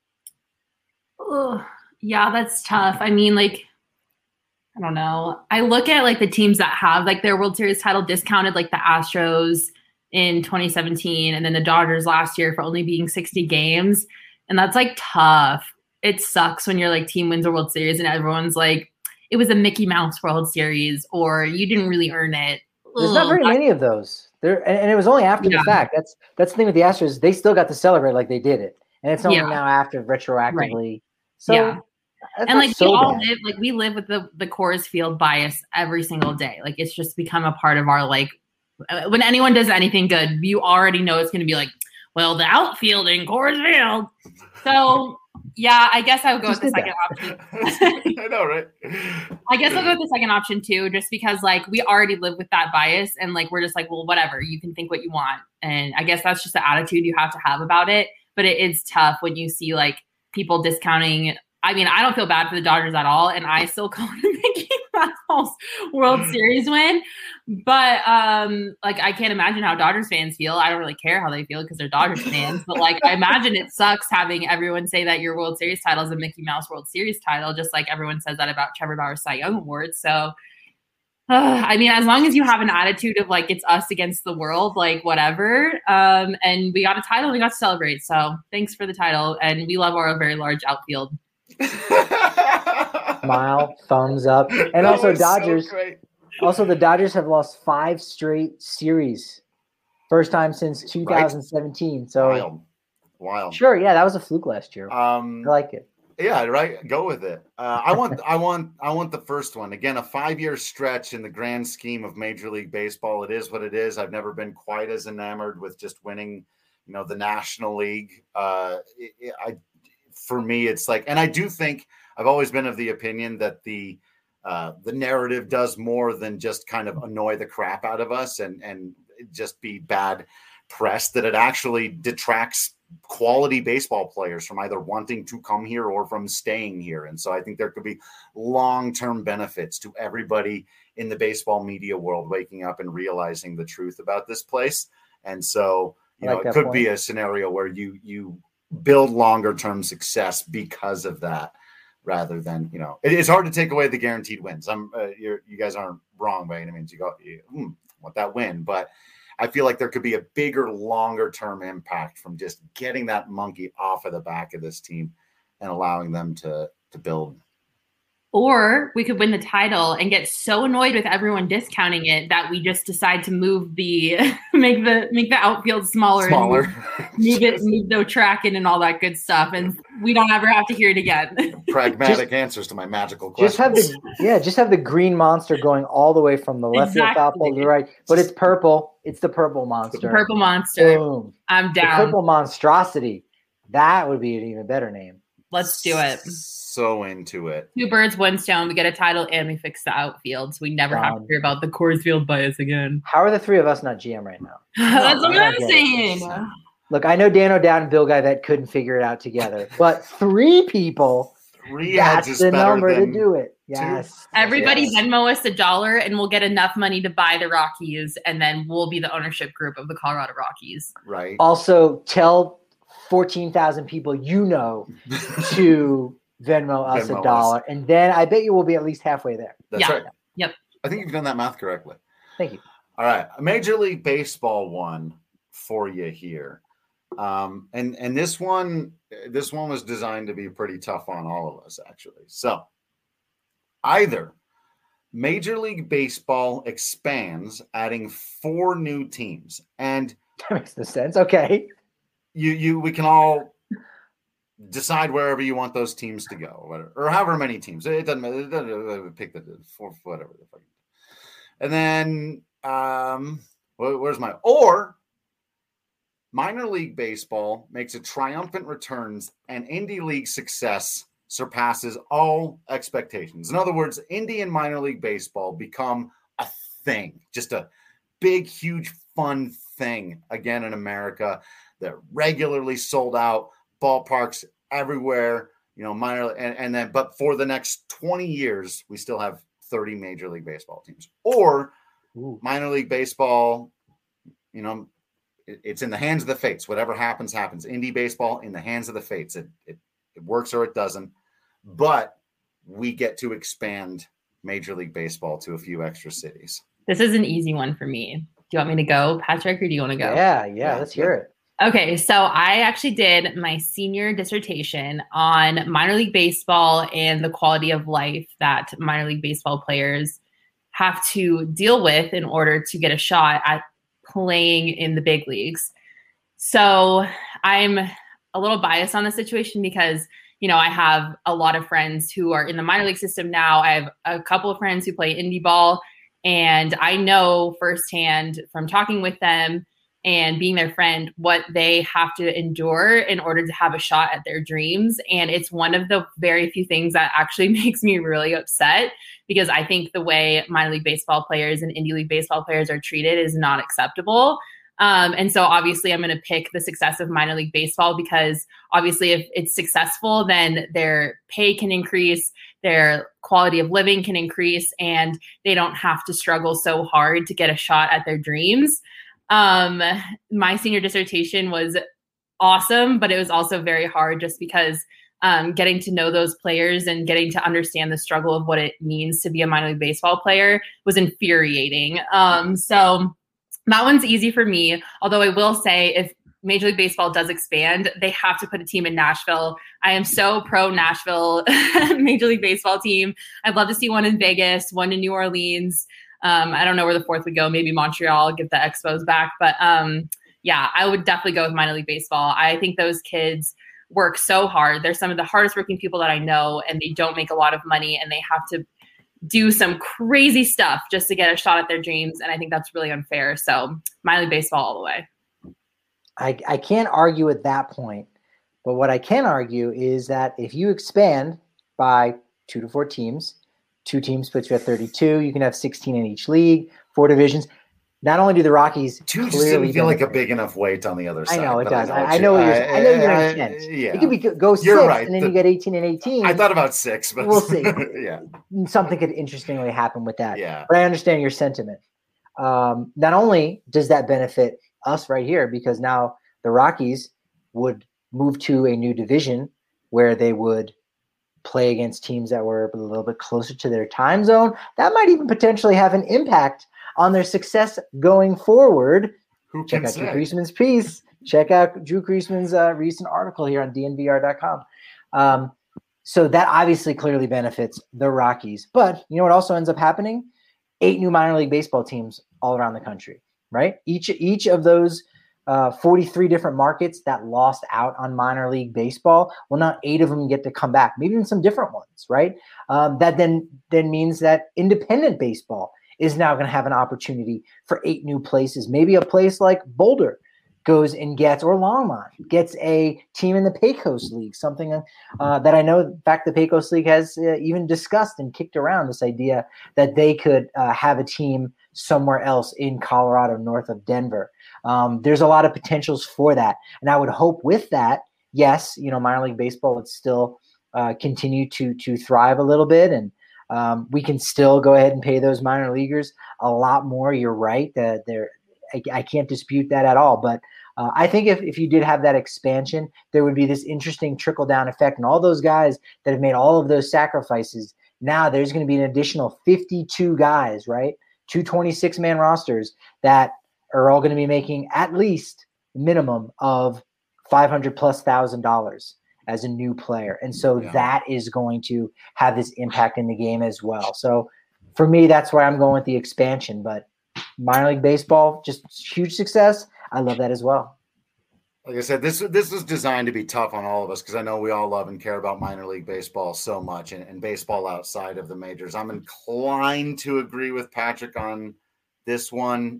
Oh, yeah, that's tough. I mean, I don't know. I look at the teams that have their World Series title discounted, like the Astros in 2017 and then the Dodgers last year for only being 60 games. And that's tough. It sucks when your team wins a World Series and everyone's like, it was a Mickey Mouse World Series or you didn't really earn it. There's not very many of those. And it was only after the fact. That's the thing with the Astros. They still got to celebrate like they did it. And it's only now after retroactively. Right. So That's And not like so bad. we live with the Coors Field bias every single day. Like it's just become a part of our like when anyone does anything good, you already know it's going to be like, well, the outfield in Coors Field. So yeah, I guess I would go with the second option. I know, right? I guess I'll go with the second option too, just because like we already live with that bias and like we're just like, well, whatever, you can think what you want. And I guess that's just the attitude you have to have about it. But it is tough when you see like people discounting. I mean, I don't feel bad for the Dodgers at all, and I still call it a Mickey Mouse World Series win. But like I can't imagine how Dodgers fans feel. I don't really care how they feel because they're Dodgers fans. But like I imagine it sucks having everyone say that your World Series title is a Mickey Mouse World Series title, just like everyone says that about Trevor Bauer's Cy Young Award. So I mean, as long as you have an attitude of like it's us against the world, like whatever. And we got a title, we got to celebrate. So thanks for the title, and we love our very large outfield. Smile, thumbs up, and also Dodgers. So also, the Dodgers have lost 5 straight series, first time since 2017. Right? So wild. Sure, yeah, that was a fluke last year. I like it. Yeah, right. Go with it. I want the first one again. A 5-year stretch in the grand scheme of Major League Baseball. It is what it is. I've never been quite as enamored with just winning, the National League. For me, it's like, and I do think I've always been of the opinion that the narrative does more than just kind of annoy the crap out of us and just be bad press, that it actually detracts quality baseball players from either wanting to come here or from staying here. And so I think there could be long-term benefits to everybody in the baseball media world waking up and realizing the truth about this place. And so, it could be a scenario where you build longer term success because of that, rather than, it's hard to take away the guaranteed wins. You guys aren't wrong by any means. You want that win, but I feel like there could be a bigger, longer term impact from just getting that monkey off of the back of this team and allowing them to build. Or we could win the title and get so annoyed with everyone discounting it that we just decide to move make the outfield smaller. Move the track in and all that good stuff, and we don't ever have to hear it again. Pragmatic answers to my magical questions. Just have the green monster going all the way from the left field foul pole to the right, but it's purple. It's the purple monster. The purple monster. Boom. I'm down. The purple monstrosity. That would be an even better name. Let's do it. So into it. 2 birds, 1 stone. We get a title and we fix the outfield, so we never have to hear about the Coors Field bias again. How are the 3 of us not GM right now? That's what I'm saying. Look, I know Dan O'Dowd and Bill Guy that couldn't figure it out together, but 3 people, that's the number to do it. Yes. Everybody Venmo us $1 and we'll get enough money to buy the Rockies, and then we'll be the ownership group of the Colorado Rockies. Right. Also, tell 14,000 people to Venmo us $1, and then I bet you will be at least halfway there. That's right. Yep. I think you've done that math correctly. Thank you. All right. A Major League Baseball one for you here. And this one was designed to be pretty tough on all of us, actually. So either Major League Baseball expands, adding 4 new teams, and that makes no sense. Okay. We can all decide wherever you want those teams to go, or however many teams. It doesn't matter. Pick the 4, whatever. And then where's my or minor league baseball makes a triumphant returns and indie league success surpasses all expectations. In other words, indie and minor league baseball become a thing, just a big, huge, fun thing again in America. They're regularly sold out, ballparks everywhere, minor and then, but for the next 20 years, we still have 30 Major League Baseball teams. Or minor league baseball, it's in the hands of the fates. Whatever happens, happens. Indie baseball in the hands of the fates. It works or it doesn't. But we get to expand Major League Baseball to a few extra cities. This is an easy one for me. Do you want me to go, Patrick, or do you want to go? Yeah, let's hear it. Okay, so I actually did my senior dissertation on minor league baseball and the quality of life that minor league baseball players have to deal with in order to get a shot at playing in the big leagues. So I'm a little biased on the situation because, I have a lot of friends who are in the minor league system now. I have a couple of friends who play indie ball, and I know firsthand from talking with them and being their friend what they have to endure in order to have a shot at their dreams. And it's one of the very few things that actually makes me really upset, because I think the way minor league baseball players and indie league baseball players are treated is not acceptable. And so obviously I'm going to pick the success of minor league baseball, because obviously if it's successful, then their pay can increase, their quality of living can increase, and they don't have to struggle so hard to get a shot at their dreams. My senior dissertation was awesome, but it was also very hard just because getting to know those players and getting to understand the struggle of what it means to be a minor league baseball player was infuriating. So that one's easy for me. Although I will say, if Major League Baseball does expand, they have to put a team in Nashville. I am so pro Nashville Major League Baseball team. I'd love to see one in Vegas, one in New Orleans. I don't know where the fourth would go. Maybe Montreal, get the Expos back. But yeah, I would definitely go with minor league baseball. I think those kids work so hard. They're some of the hardest working people that I know, and they don't make a lot of money, and they have to do some crazy stuff just to get a shot at their dreams. And I think that's really unfair. So minor league baseball all the way. I can't argue at that point, but what I can argue is that if you expand by 2 to 4 teams, 2 teams puts you at 32. You can have 16 in each league, 4 divisions. Not only do the Rockies 2 just didn't feel like a big enough weight on the other side. I know it does. I know your intent. Yeah. It could be go 6, right, and then you get 18 and 18. I thought about 6, but we'll see. Yeah, something could interestingly happen with that. Yeah, but I understand your sentiment. Not only does that benefit us right here, because now the Rockies would move to a new division where they would play against teams that were a little bit closer to their time zone. That might even potentially have an impact on their success going forward. Check out Drew Creasman's piece. Check out Drew Creasman's recent article here on DNVR.com. So that obviously clearly benefits the Rockies. But you know what also ends up happening? 8 new minor league baseball teams all around the country, right? Each of those 43 different markets that lost out on minor league baseball, well, now 8 of them get to come back, maybe even some different ones, right? That then means that independent baseball is now going to have an opportunity for 8 new places. Maybe a place like Boulder goes and gets, or Longmont gets a team in the Pecos League, something that I know, in fact, the Pecos League has even discussed and kicked around this idea that they could have a team somewhere else in Colorado, north of Denver. There's a lot of potentials for that. And I would hope with that, yes, minor league baseball would still continue to thrive a little bit. And we can still go ahead and pay those minor leaguers a lot more. You're right. I can't dispute that at all. But I think if you did have that expansion, there would be this interesting trickle-down effect. And all those guys that have made all of those sacrifices, now there's going to be an additional 52 guys, right? 2 26-man rosters that are all going to be making at least minimum of $500,000+ as a new player. And so that is going to have this impact in the game as well. So for me, that's where I'm going with the expansion. But minor league baseball, just huge success. I love that as well. Like I said, this was designed to be tough on all of us, because I know we all love and care about minor league baseball so much, and baseball outside of the majors. I'm inclined to agree with Patrick on this one.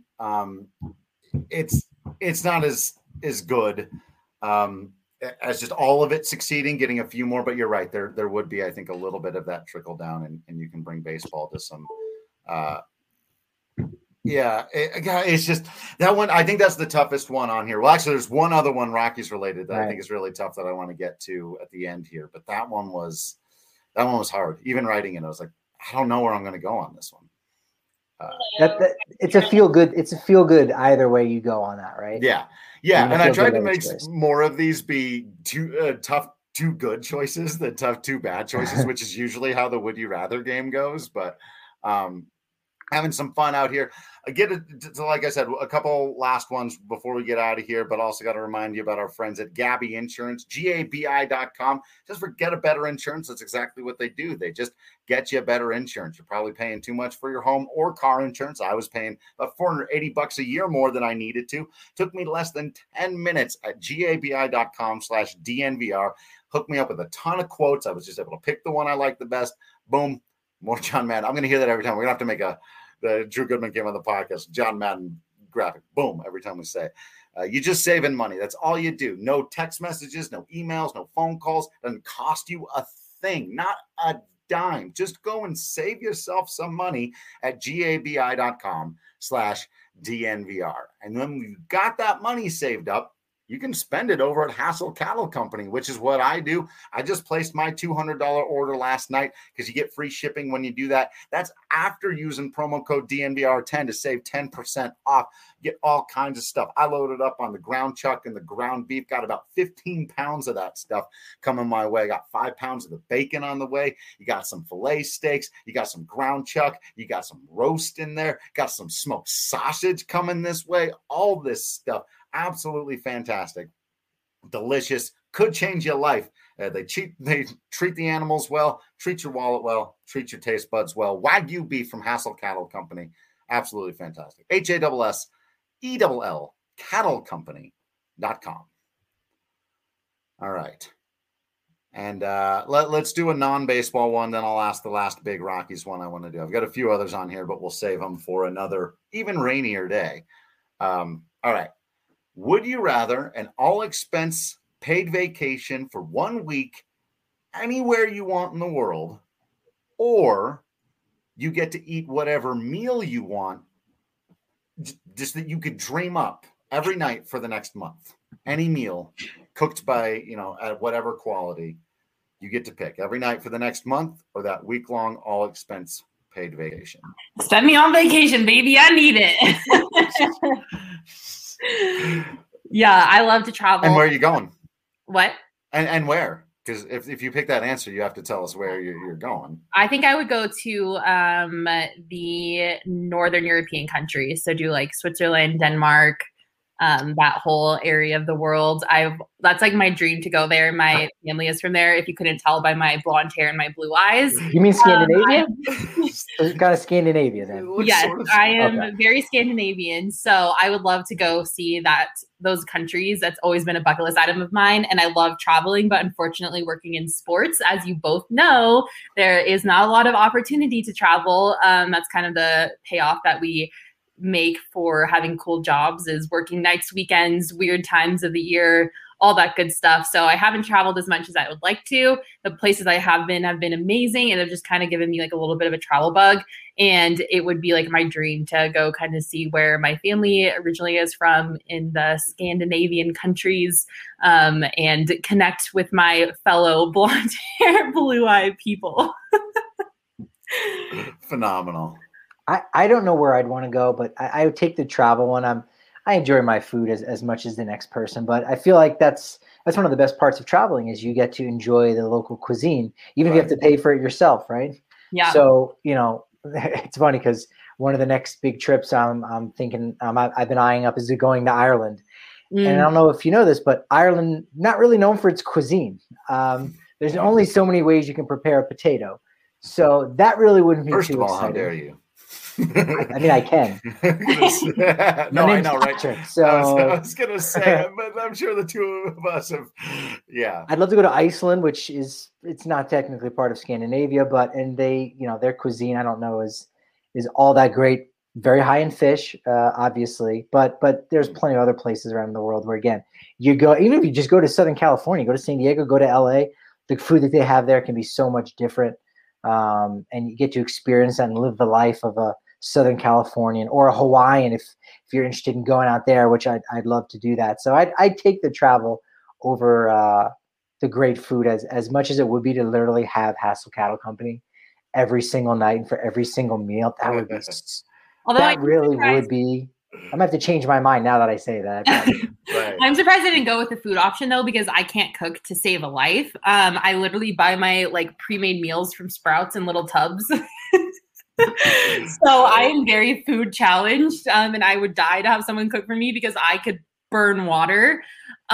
It's not as good as just all of it succeeding, getting a few more. But you're right, there would be, I think, a little bit of that trickle down, and you can bring baseball to some. It's just that one. I think that's the toughest one on here. Well, actually, there's one other one Rockies related that I think is really tough that I want to get to at the end here. But that one was hard. Even writing it, I was like, I don't know where I'm going to go on this one. It's a feel good. It's a feel good either way you go on that, right? Yeah. And I tried to make more of these be too tough, 2 good choices than tough 2 bad choices, which is usually how the Would You Rather game goes. But having some fun out here. Like I said, a couple last ones before we get out of here, but also got to remind you about our friends at Gabi Insurance, GABI.com. Just forget a better insurance. That's exactly what they do. They just get you a better insurance. You're probably paying too much for your home or car insurance. I was paying about $480 a year more than I needed to. Took me less than 10 minutes at GABI.com/DNVR. hooked me up with a ton of quotes. I was just able to pick the one I liked the best. Boom, more John Madden. I'm going to hear that every time. We're going to have to make the Drew Goodman came on the podcast, John Madden graphic. Boom, every time we say it. You're just saving money. That's all you do. No text messages, no emails, no phone calls. Doesn't cost you a thing, not a dime. Just go and save yourself some money at gabi.com/DNVR. And when you've got that money saved up, you can spend it over at Hassel Cattle Company, which is what I do. I just placed my $200 order last night because you get free shipping when you do that. That's after using promo code DNVR10 to save 10% off. Get all kinds of stuff. I loaded up on the ground chuck and the ground beef. Got about 15 pounds of that stuff coming my way. Got 5 pounds of the bacon on the way. You got some filet steaks. You got some ground chuck. You got some roast in there. Got some smoked sausage coming this way. All this stuff. Absolutely fantastic. Delicious. Could change your life. They treat the animals well, treat your wallet well, treat your taste buds well. Wagyu beef from Hassel Cattle Company. Absolutely fantastic. HASSELL cattlecompany.com. All right. And let's do a non-baseball one. Then I'll ask the last big Rockies one I want to do. I've got a few others on here, but we'll save them for another even rainier day. All right. Would you rather an all-expense paid vacation for 1 week anywhere you want in the world, or you get to eat whatever meal you want, just that you could dream up every night for the next month? Any meal cooked by, at whatever quality, you get to pick every night for the next month or that week-long all-expense paid vacation. Send me on vacation, baby. I need it. Yeah, I love to travel. And where are you going? What? And where? Because if you pick that answer, you have to tell us where you're going. I think I would go to the Northern European countries. So do like Switzerland, Denmark, that whole area of the world. That's like my dream to go there. My family is from there. If you couldn't tell by my blonde hair and my blue eyes. You mean Scandinavia? Kind of Scandinavia then. Yes, I am very Scandinavian. So I would love to go see those countries. That's always been a bucket list item of mine. And I love traveling, but unfortunately working in sports, as you both know, there is not a lot of opportunity to travel. That's kind of the payoff that we make for having cool jobs, is working nights, weekends, weird times of the year, all that good stuff. So I haven't traveled as much as I would like to. The places I have been amazing, and have just kind of given me like a little bit of a travel bug. And it would be like my dream to go kind of see where my family originally is from in the Scandinavian countries, and connect with my fellow blonde hair, blue eye people. Phenomenal. I don't know where I'd want to go, but I would take the travel one. I enjoy my food as much as the next person, but I feel like that's one of the best parts of traveling, is you get to enjoy the local cuisine, even if you have to pay for it yourself, right? Yeah. So, it's funny because one of the next big trips I'm thinking I've been eyeing up is going to Ireland. And I don't know if you know this, but Ireland, not really known for its cuisine. There's only so many ways you can prepare a potato. So that really wouldn't be First too of all, exciting. how dare you? I mean, I can. No, I know, right? Patrick, so I was going to say, but I'm sure the two of us have, yeah. I'd love to go to Iceland, which it's not technically part of Scandinavia, but they, their cuisine, I don't know, is all that great. Very high in fish, obviously, but there's plenty of other places around the world where, again, you go, even if you just go to Southern California, go to San Diego, go to LA, the food that they have there can be so much different. And you get to experience and live the life of a Southern Californian or a Hawaiian if you're interested in going out there, which I'd love to do that. So I'd take the travel over the great food as much as it would be to literally have Hassel Cattle Company every single night and for every single meal. That would be would be. I'm gonna have to change my mind now that I say that. Right. I'm surprised I didn't go with the food option though, because I can't cook to save a life. I literally buy my pre-made meals from Sprouts in little tubs. So I am very food challenged, and I would die to have someone cook for me because I could burn water.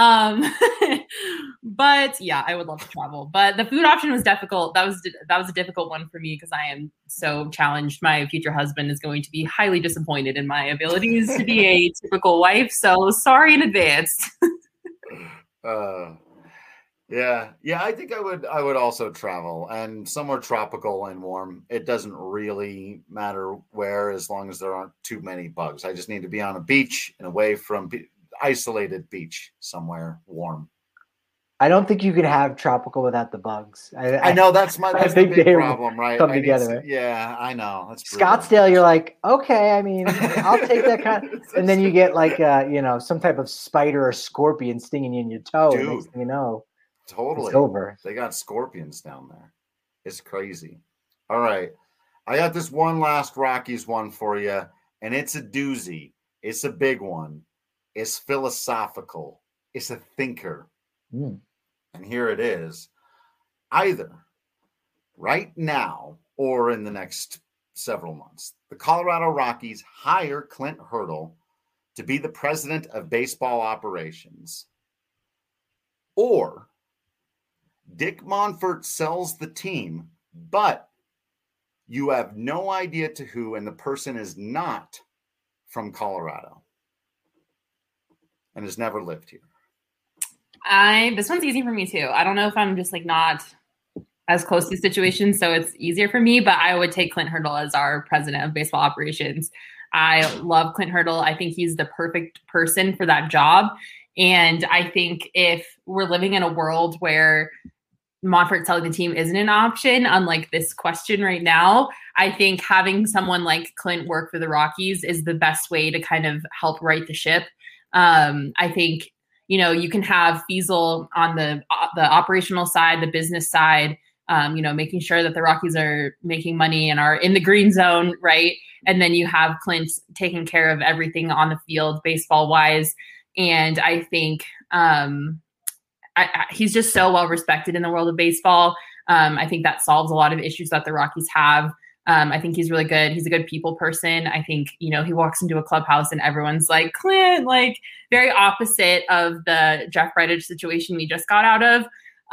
But yeah, I would love to travel. But the food option was difficult. That was a difficult one for me because I am so challenged. My future husband is going to be highly disappointed in my abilities to be a typical wife. So sorry in advance. Yeah. I think I would also travel, and somewhere tropical and warm. It doesn't really matter where, as long as there aren't too many bugs. I just need to be on a beach and away from isolated beach somewhere warm. I don't think you could have tropical without the bugs. I know that's the big problem, right? Come together. Yeah, I know. That's Scottsdale. You're like, okay, I mean, I'll take that kind of, and then you get like, some type of spider or scorpion stinging you in your toe. Dude, next thing you know, totally. It's over. They got scorpions down there. It's crazy. All right. I got this one last Rockies one for you, and it's a doozy. It's a big one. It's philosophical. It's a thinker. And here it is. Either right now or in the next several months, the Colorado Rockies hire Clint Hurdle to be the president of baseball operations, or Dick Monfort sells the team, but you have no idea to who, and the person is not from Colorado and has never lived here. This one's easy for me too. I don't know if I'm just like not as close to the situation, so it's easier for me, but I would take Clint Hurdle as our president of baseball operations. I love Clint Hurdle. I think he's the perfect person for that job. And I think if we're living in a world where Monfort selling the team isn't an option, unlike this question right now, I think having someone like Clint work for the Rockies is the best way to kind of help right the ship. I think, you can have Fiesel on the operational side, the business side, making sure that the Rockies are making money and are in the green zone, right? And then you have Clint taking care of everything on the field, baseball wise. And I think he's just so well respected in the world of baseball. I think that solves a lot of issues that the Rockies have. I think he's really good. He's a good people person. I think, he walks into a clubhouse and everyone's like, Clint, like very opposite of the Jeff Bridich situation we just got out of.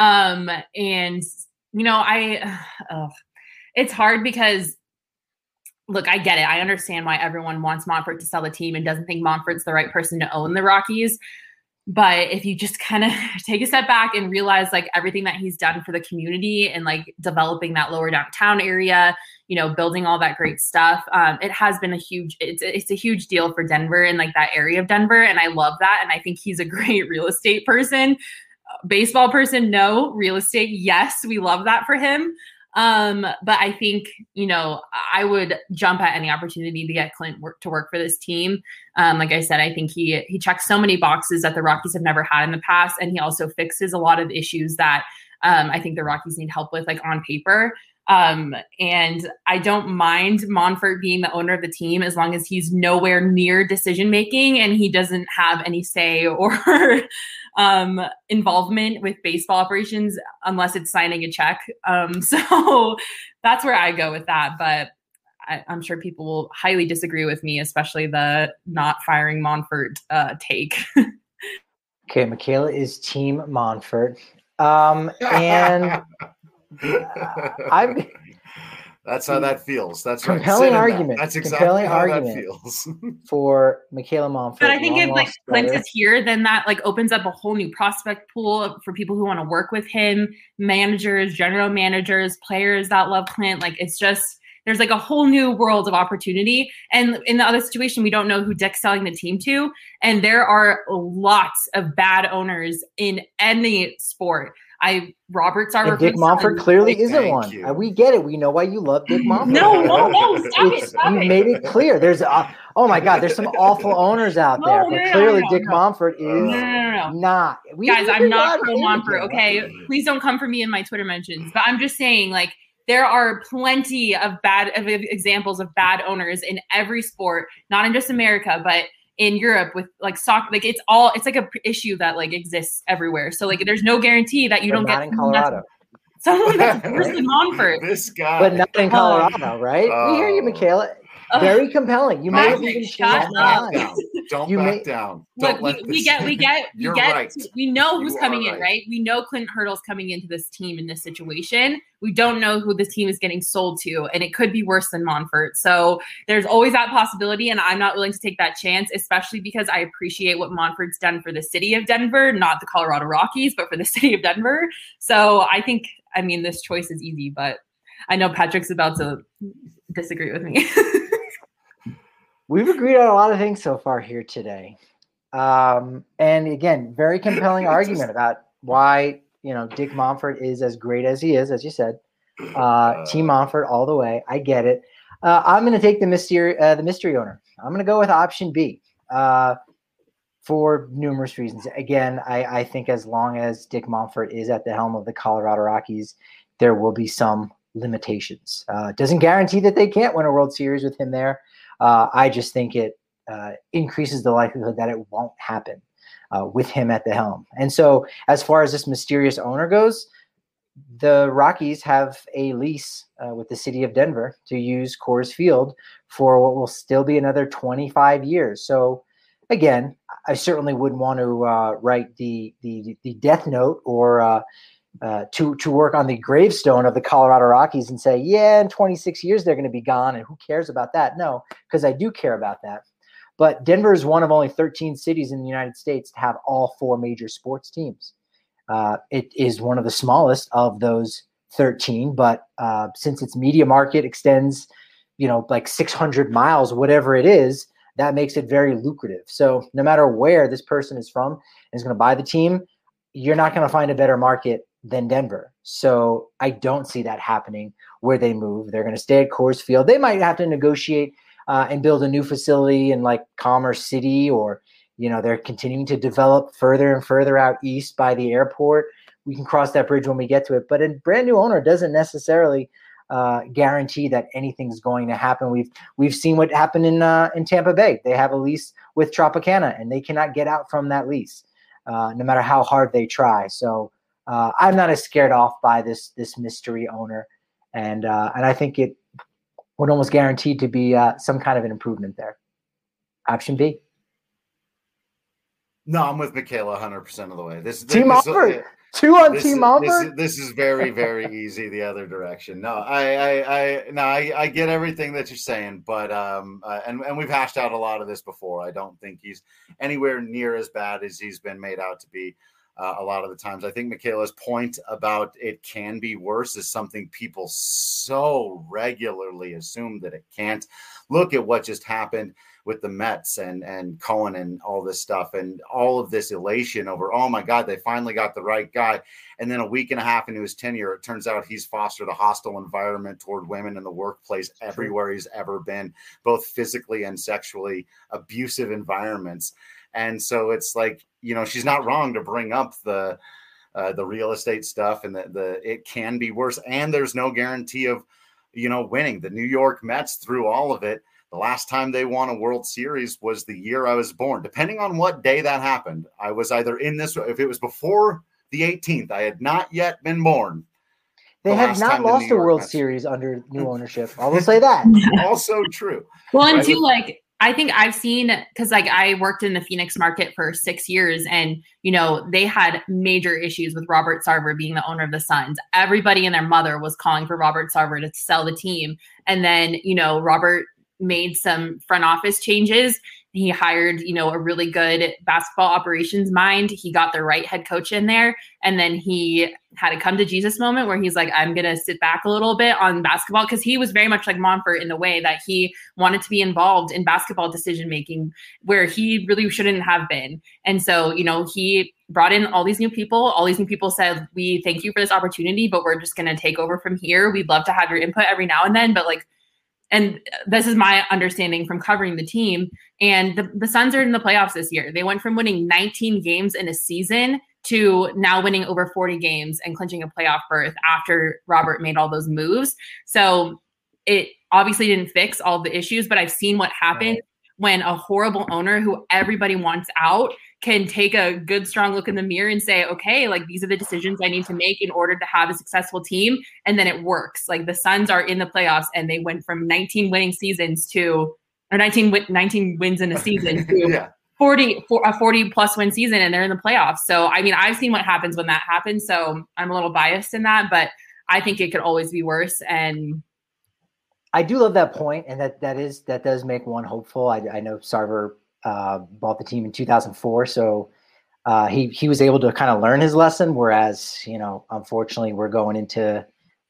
It's hard because, look, I get it. I understand why everyone wants Monfort to sell the team and doesn't think Monfort's the right person to own the Rockies. But if you just kind of take a step back and realize like everything that he's done for the community and like developing that lower downtown area, building all that great stuff, it has been it's a huge deal for Denver and like that area of Denver. And I love that. And I think he's a great real estate person. Baseball person, no. Real estate, yes. We love that for him. But I think, I would jump at any opportunity to get Clint to work for this team. Like I said, I think he checks so many boxes that the Rockies have never had in the past. And he also fixes a lot of issues that I think the Rockies need help with, like on paper. And I don't mind Monfort being the owner of the team as long as he's nowhere near decision-making and he doesn't have any say or involvement with baseball operations unless it's signing a check. So that's where I go with that. But I'm sure people will highly disagree with me, especially the not firing Monfort take. Okay, Michaela is Team Monfort. And that's how that feels. That's compelling argument. That's exactly how that feels for Michaela Monfort. But I think if like Clint is here, then that like opens up a whole new prospect pool for people who want to work with him, managers, general managers, players that love Clint. Like it's just there's like a whole new world of opportunity. And in the other situation, we don't know who Dick's selling the team to. And there are lots of bad owners in any sport. Roberts are Dick Monfort clearly isn't one. We get it. We know why you love Dick Monfort. No, stop it. You made it clear. There's oh my God, there's some awful owners out there, but clearly Dick Monfort is not. Guys, I'm not pro Monfort. Okay, please don't come for me in my Twitter mentions. But I'm just saying, like, there are plenty of examples of bad owners in every sport, not in just America, but in Europe with like soccer. Like it's like a issue that like exists everywhere. So like there's no guarantee that you don't get in Colorado. Someone that's worse than Monfort. This guy. But not in Colorado, right? We hear you, Michaela. Very compelling. You may have even changed Shut my up. mind. Don't You back may- down. Look, Don't we get, You're right. we know who's You coming are in, right. right? We know Clint Hurdle's coming into this team in this situation. We don't know who this team is getting sold to, and it could be worse than Monfort. So there's always that possibility, and I'm not willing to take that chance, especially because I appreciate what Monfort's done for the city of Denver, not the Colorado Rockies, but for the city of Denver. So I think, this choice is easy, but I know Patrick's about to disagree with me. We've agreed on a lot of things so far here today. And again, very compelling argument about why, Dick Monfort is as great as he is, as you said. Team Monfort all the way. I get it. I'm going to take the mystery owner. I'm going to go with option B for numerous reasons. Again, I think as long as Dick Monfort is at the helm of the Colorado Rockies, there will be some limitations. Doesn't guarantee that they can't win a World Series with him there. I just think it increases the likelihood that it won't happen with him at the helm. And so as far as this mysterious owner goes, the Rockies have a lease with the city of Denver to use Coors Field for what will still be another 25 years. So again, I certainly wouldn't want to write the death note or to work on the gravestone of the Colorado Rockies and say, yeah, in 26 years, they're going to be gone. And who cares about that? No, because I do care about that. But Denver is one of only 13 cities in the United States to have all 4 major sports teams. It is one of the smallest of those 13, but since its media market extends, like 600 miles, whatever it is, that makes it very lucrative. So no matter where this person is from and is going to buy the team, you're not going to find a better market than Denver. So I don't see that happening where they move. They're going to stay at Coors Field. They might have to negotiate and build a new facility in like Commerce City, or, they're continuing to develop further and further out east by the airport. We can cross that bridge when we get to it. But a brand new owner doesn't necessarily guarantee that anything's going to happen. We've seen what happened in Tampa Bay. They have a lease with Tropicana, and they cannot get out from that lease, no matter how hard they try. So I'm not as scared off by this mystery owner, and I think it would almost guaranteed to be some kind of an improvement there. Option B. No, I'm with Michaela 100% of the way. Team Monfort. 2 on Team Monfort. This is very, very easy the other direction. No, I get everything that you're saying, but and we've hashed out a lot of this before. I don't think he's anywhere near as bad as he's been made out to be. A lot of the times, I think Michaela's point about it can be worse is something people so regularly assume that it can't. Look at what just happened with the Mets and Cohen and all this stuff and all of this elation over, oh my God, they finally got the right guy. And then a week and a half into his tenure, it turns out he's fostered a hostile environment toward women in the workplace everywhere he's ever been, both physically and sexually abusive environments. And so it's like, she's not wrong to bring up the real estate stuff and the it can be worse. And there's no guarantee of, winning. The New York Mets, through all of it, the last time they won a World Series was the year I was born. Depending on what day that happened, I was either in this, if it was before the 18th, I had not yet been born. They have not lost a World Series under new ownership. I will say that. Also true. Well, and too, I think I've seen, because I worked in the Phoenix market for 6 years, and they had major issues with Robert Sarver being the owner of the Suns. Everybody and their mother was calling for Robert Sarver to sell the team, and then Robert made some front office changes. He hired a really good basketball operations mind. He got the right head coach in there, and then he had a come to Jesus moment where he's like, I'm gonna sit back a little bit on basketball, because he was very much like Monfort in the way that he wanted to be involved in basketball decision making where he really shouldn't have been. And so he brought in all these new people. All these new people said, we thank you for this opportunity, but we're just gonna take over from here. We'd love to have your input every now and then, but and this is my understanding from covering the team. And the Suns are in the playoffs this year. They went from winning 19 games in a season to now winning over 40 games and clinching a playoff berth after Robert made all those moves. So it obviously didn't fix all the issues, but I've seen what happens when a horrible owner who everybody wants out can take a good, strong look in the mirror and say, okay, like these are the decisions I need to make in order to have a successful team. And then it works. Like the Suns are in the playoffs and they went from 19 winning seasons to, or 19 wins in a season to 40 plus win season, and they're in the playoffs. So, I mean, I've seen what happens when that happens. So I'm a little biased in that, but I think it could always be worse. And I do love that point, and that does make one hopeful. I know Sarver bought the team in 2004, so he was able to kind of learn his lesson. Whereas, unfortunately, we're going into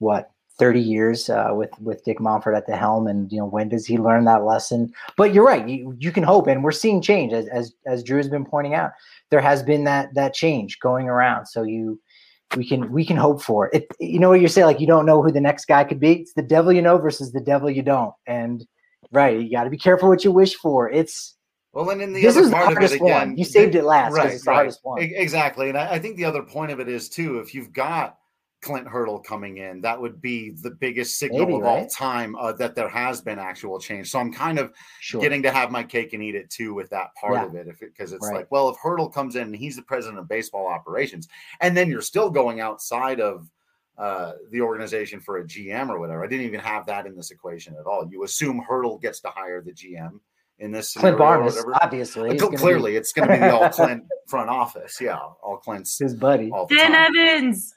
30 years with Dick Monfort at the helm, and when does he learn that lesson? But you're right, you can hope, and we're seeing change as Drew has been pointing out. There has been that change going around, so we can hope for it. You know what you're saying, like you don't know who the next guy could be. It's the devil you know versus the devil you don't, and right, you got to be careful what you wish for. And in the other part of it again, you saved it last, right? It's the hardest one. Exactly, and I think the other point of it is too, if you've got Clint Hurdle coming in, that would be the biggest signal of all time that there has been actual change. So I'm kind of getting to have my cake and eat it too with that part of it, because it's like, well, if Hurdle comes in and he's the president of baseball operations, and then you're still going outside of the organization for a GM or whatever. I didn't even have that in this equation at all. You assume Hurdle gets to hire the GM in this Clint Barnes, obviously. Clearly, it's going to be the all Clint front office. Yeah, all Clint's his buddy. Dan Evans.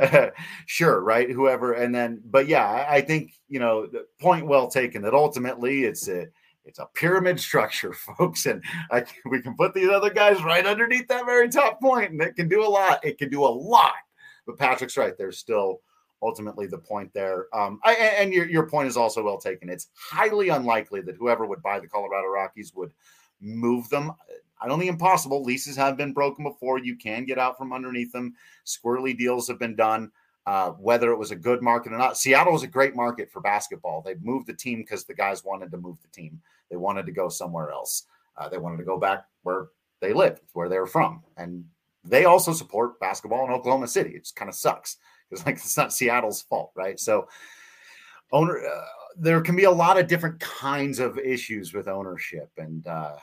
Sure, right? Whoever, and then, but yeah, I think the point well taken that ultimately it's a pyramid structure, folks, and we can put these other guys right underneath that very top point, and it can do a lot. It can do a lot. But Patrick's right. There's still ultimately the point there. And your point is also well taken. It's highly unlikely that whoever would buy the Colorado Rockies would move them. I don't think impossible. Leases have been broken before. You can get out from underneath them. Squirrely deals have been done. Whether it was a good market or not, Seattle was a great market for basketball. They moved the team because the guys wanted to move the team. They wanted to go somewhere else. They wanted to go back where they lived, where they were from. And they also support basketball in Oklahoma City. It just kind of sucks because it's not Seattle's fault, right? So there can be a lot of different kinds of issues with ownership. And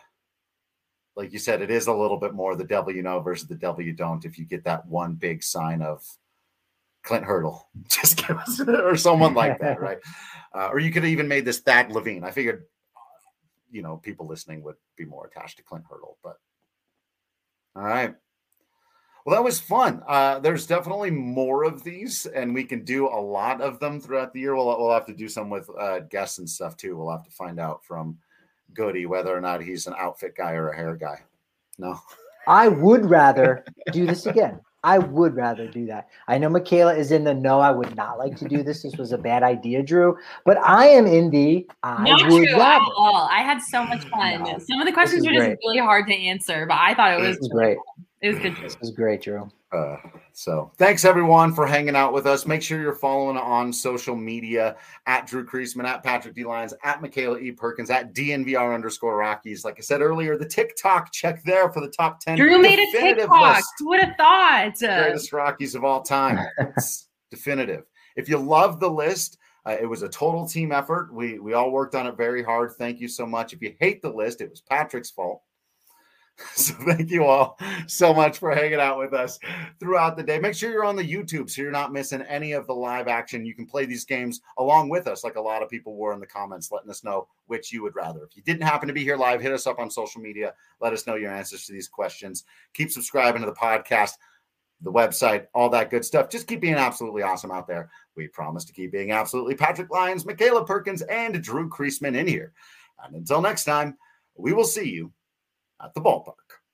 like you said, it is a little bit more the devil you know versus the devil you don't. If you get that one big sign of Clint Hurdle, just give us, or someone like that, right? Or you could have even made this Thad Levine. I figured, people listening would be more attached to Clint Hurdle, but all right. Well, that was fun. There's definitely more of these, and we can do a lot of them throughout the year. We'll have to do some with guests and stuff too. We'll have to find out from Goody whether or not he's an outfit guy or a hair guy. No, I would rather do this again. I would rather do that. I know Michaela is in the no, I would not like to do this. This was a bad idea, Drew. But I am in the not would true rather. at all. I had so much fun. No, some of the questions were just really hard to answer, but I thought it was great. It was good. This was great, Drew. So thanks everyone for hanging out with us. Make sure you're following on social media at Drew Creasman, at Patrick D. Lyons, at Michaela E. Perkins, at DNVR_Rockies. Like I said earlier, the TikTok, check there for the top 10. Drew made a TikTok. List. Who would have thought? Greatest Rockies of all time. It's definitive. If you love the list, it was a total team effort. We all worked on it very hard. Thank you so much. If you hate the list, it was Patrick's fault. So thank you all so much for hanging out with us throughout the day. Make sure you're on the YouTube so you're not missing any of the live action. You can play these games along with us, like a lot of people were in the comments, letting us know which you would rather. If you didn't happen to be here live, hit us up on social media. Let us know your answers to these questions. Keep subscribing to the podcast, the website, all that good stuff. Just keep being absolutely awesome out there. We promise to keep being absolutely Patrick Lyons, Michaela Perkins, and Drew Creasman in here. And until next time, we will see you at the ballpark.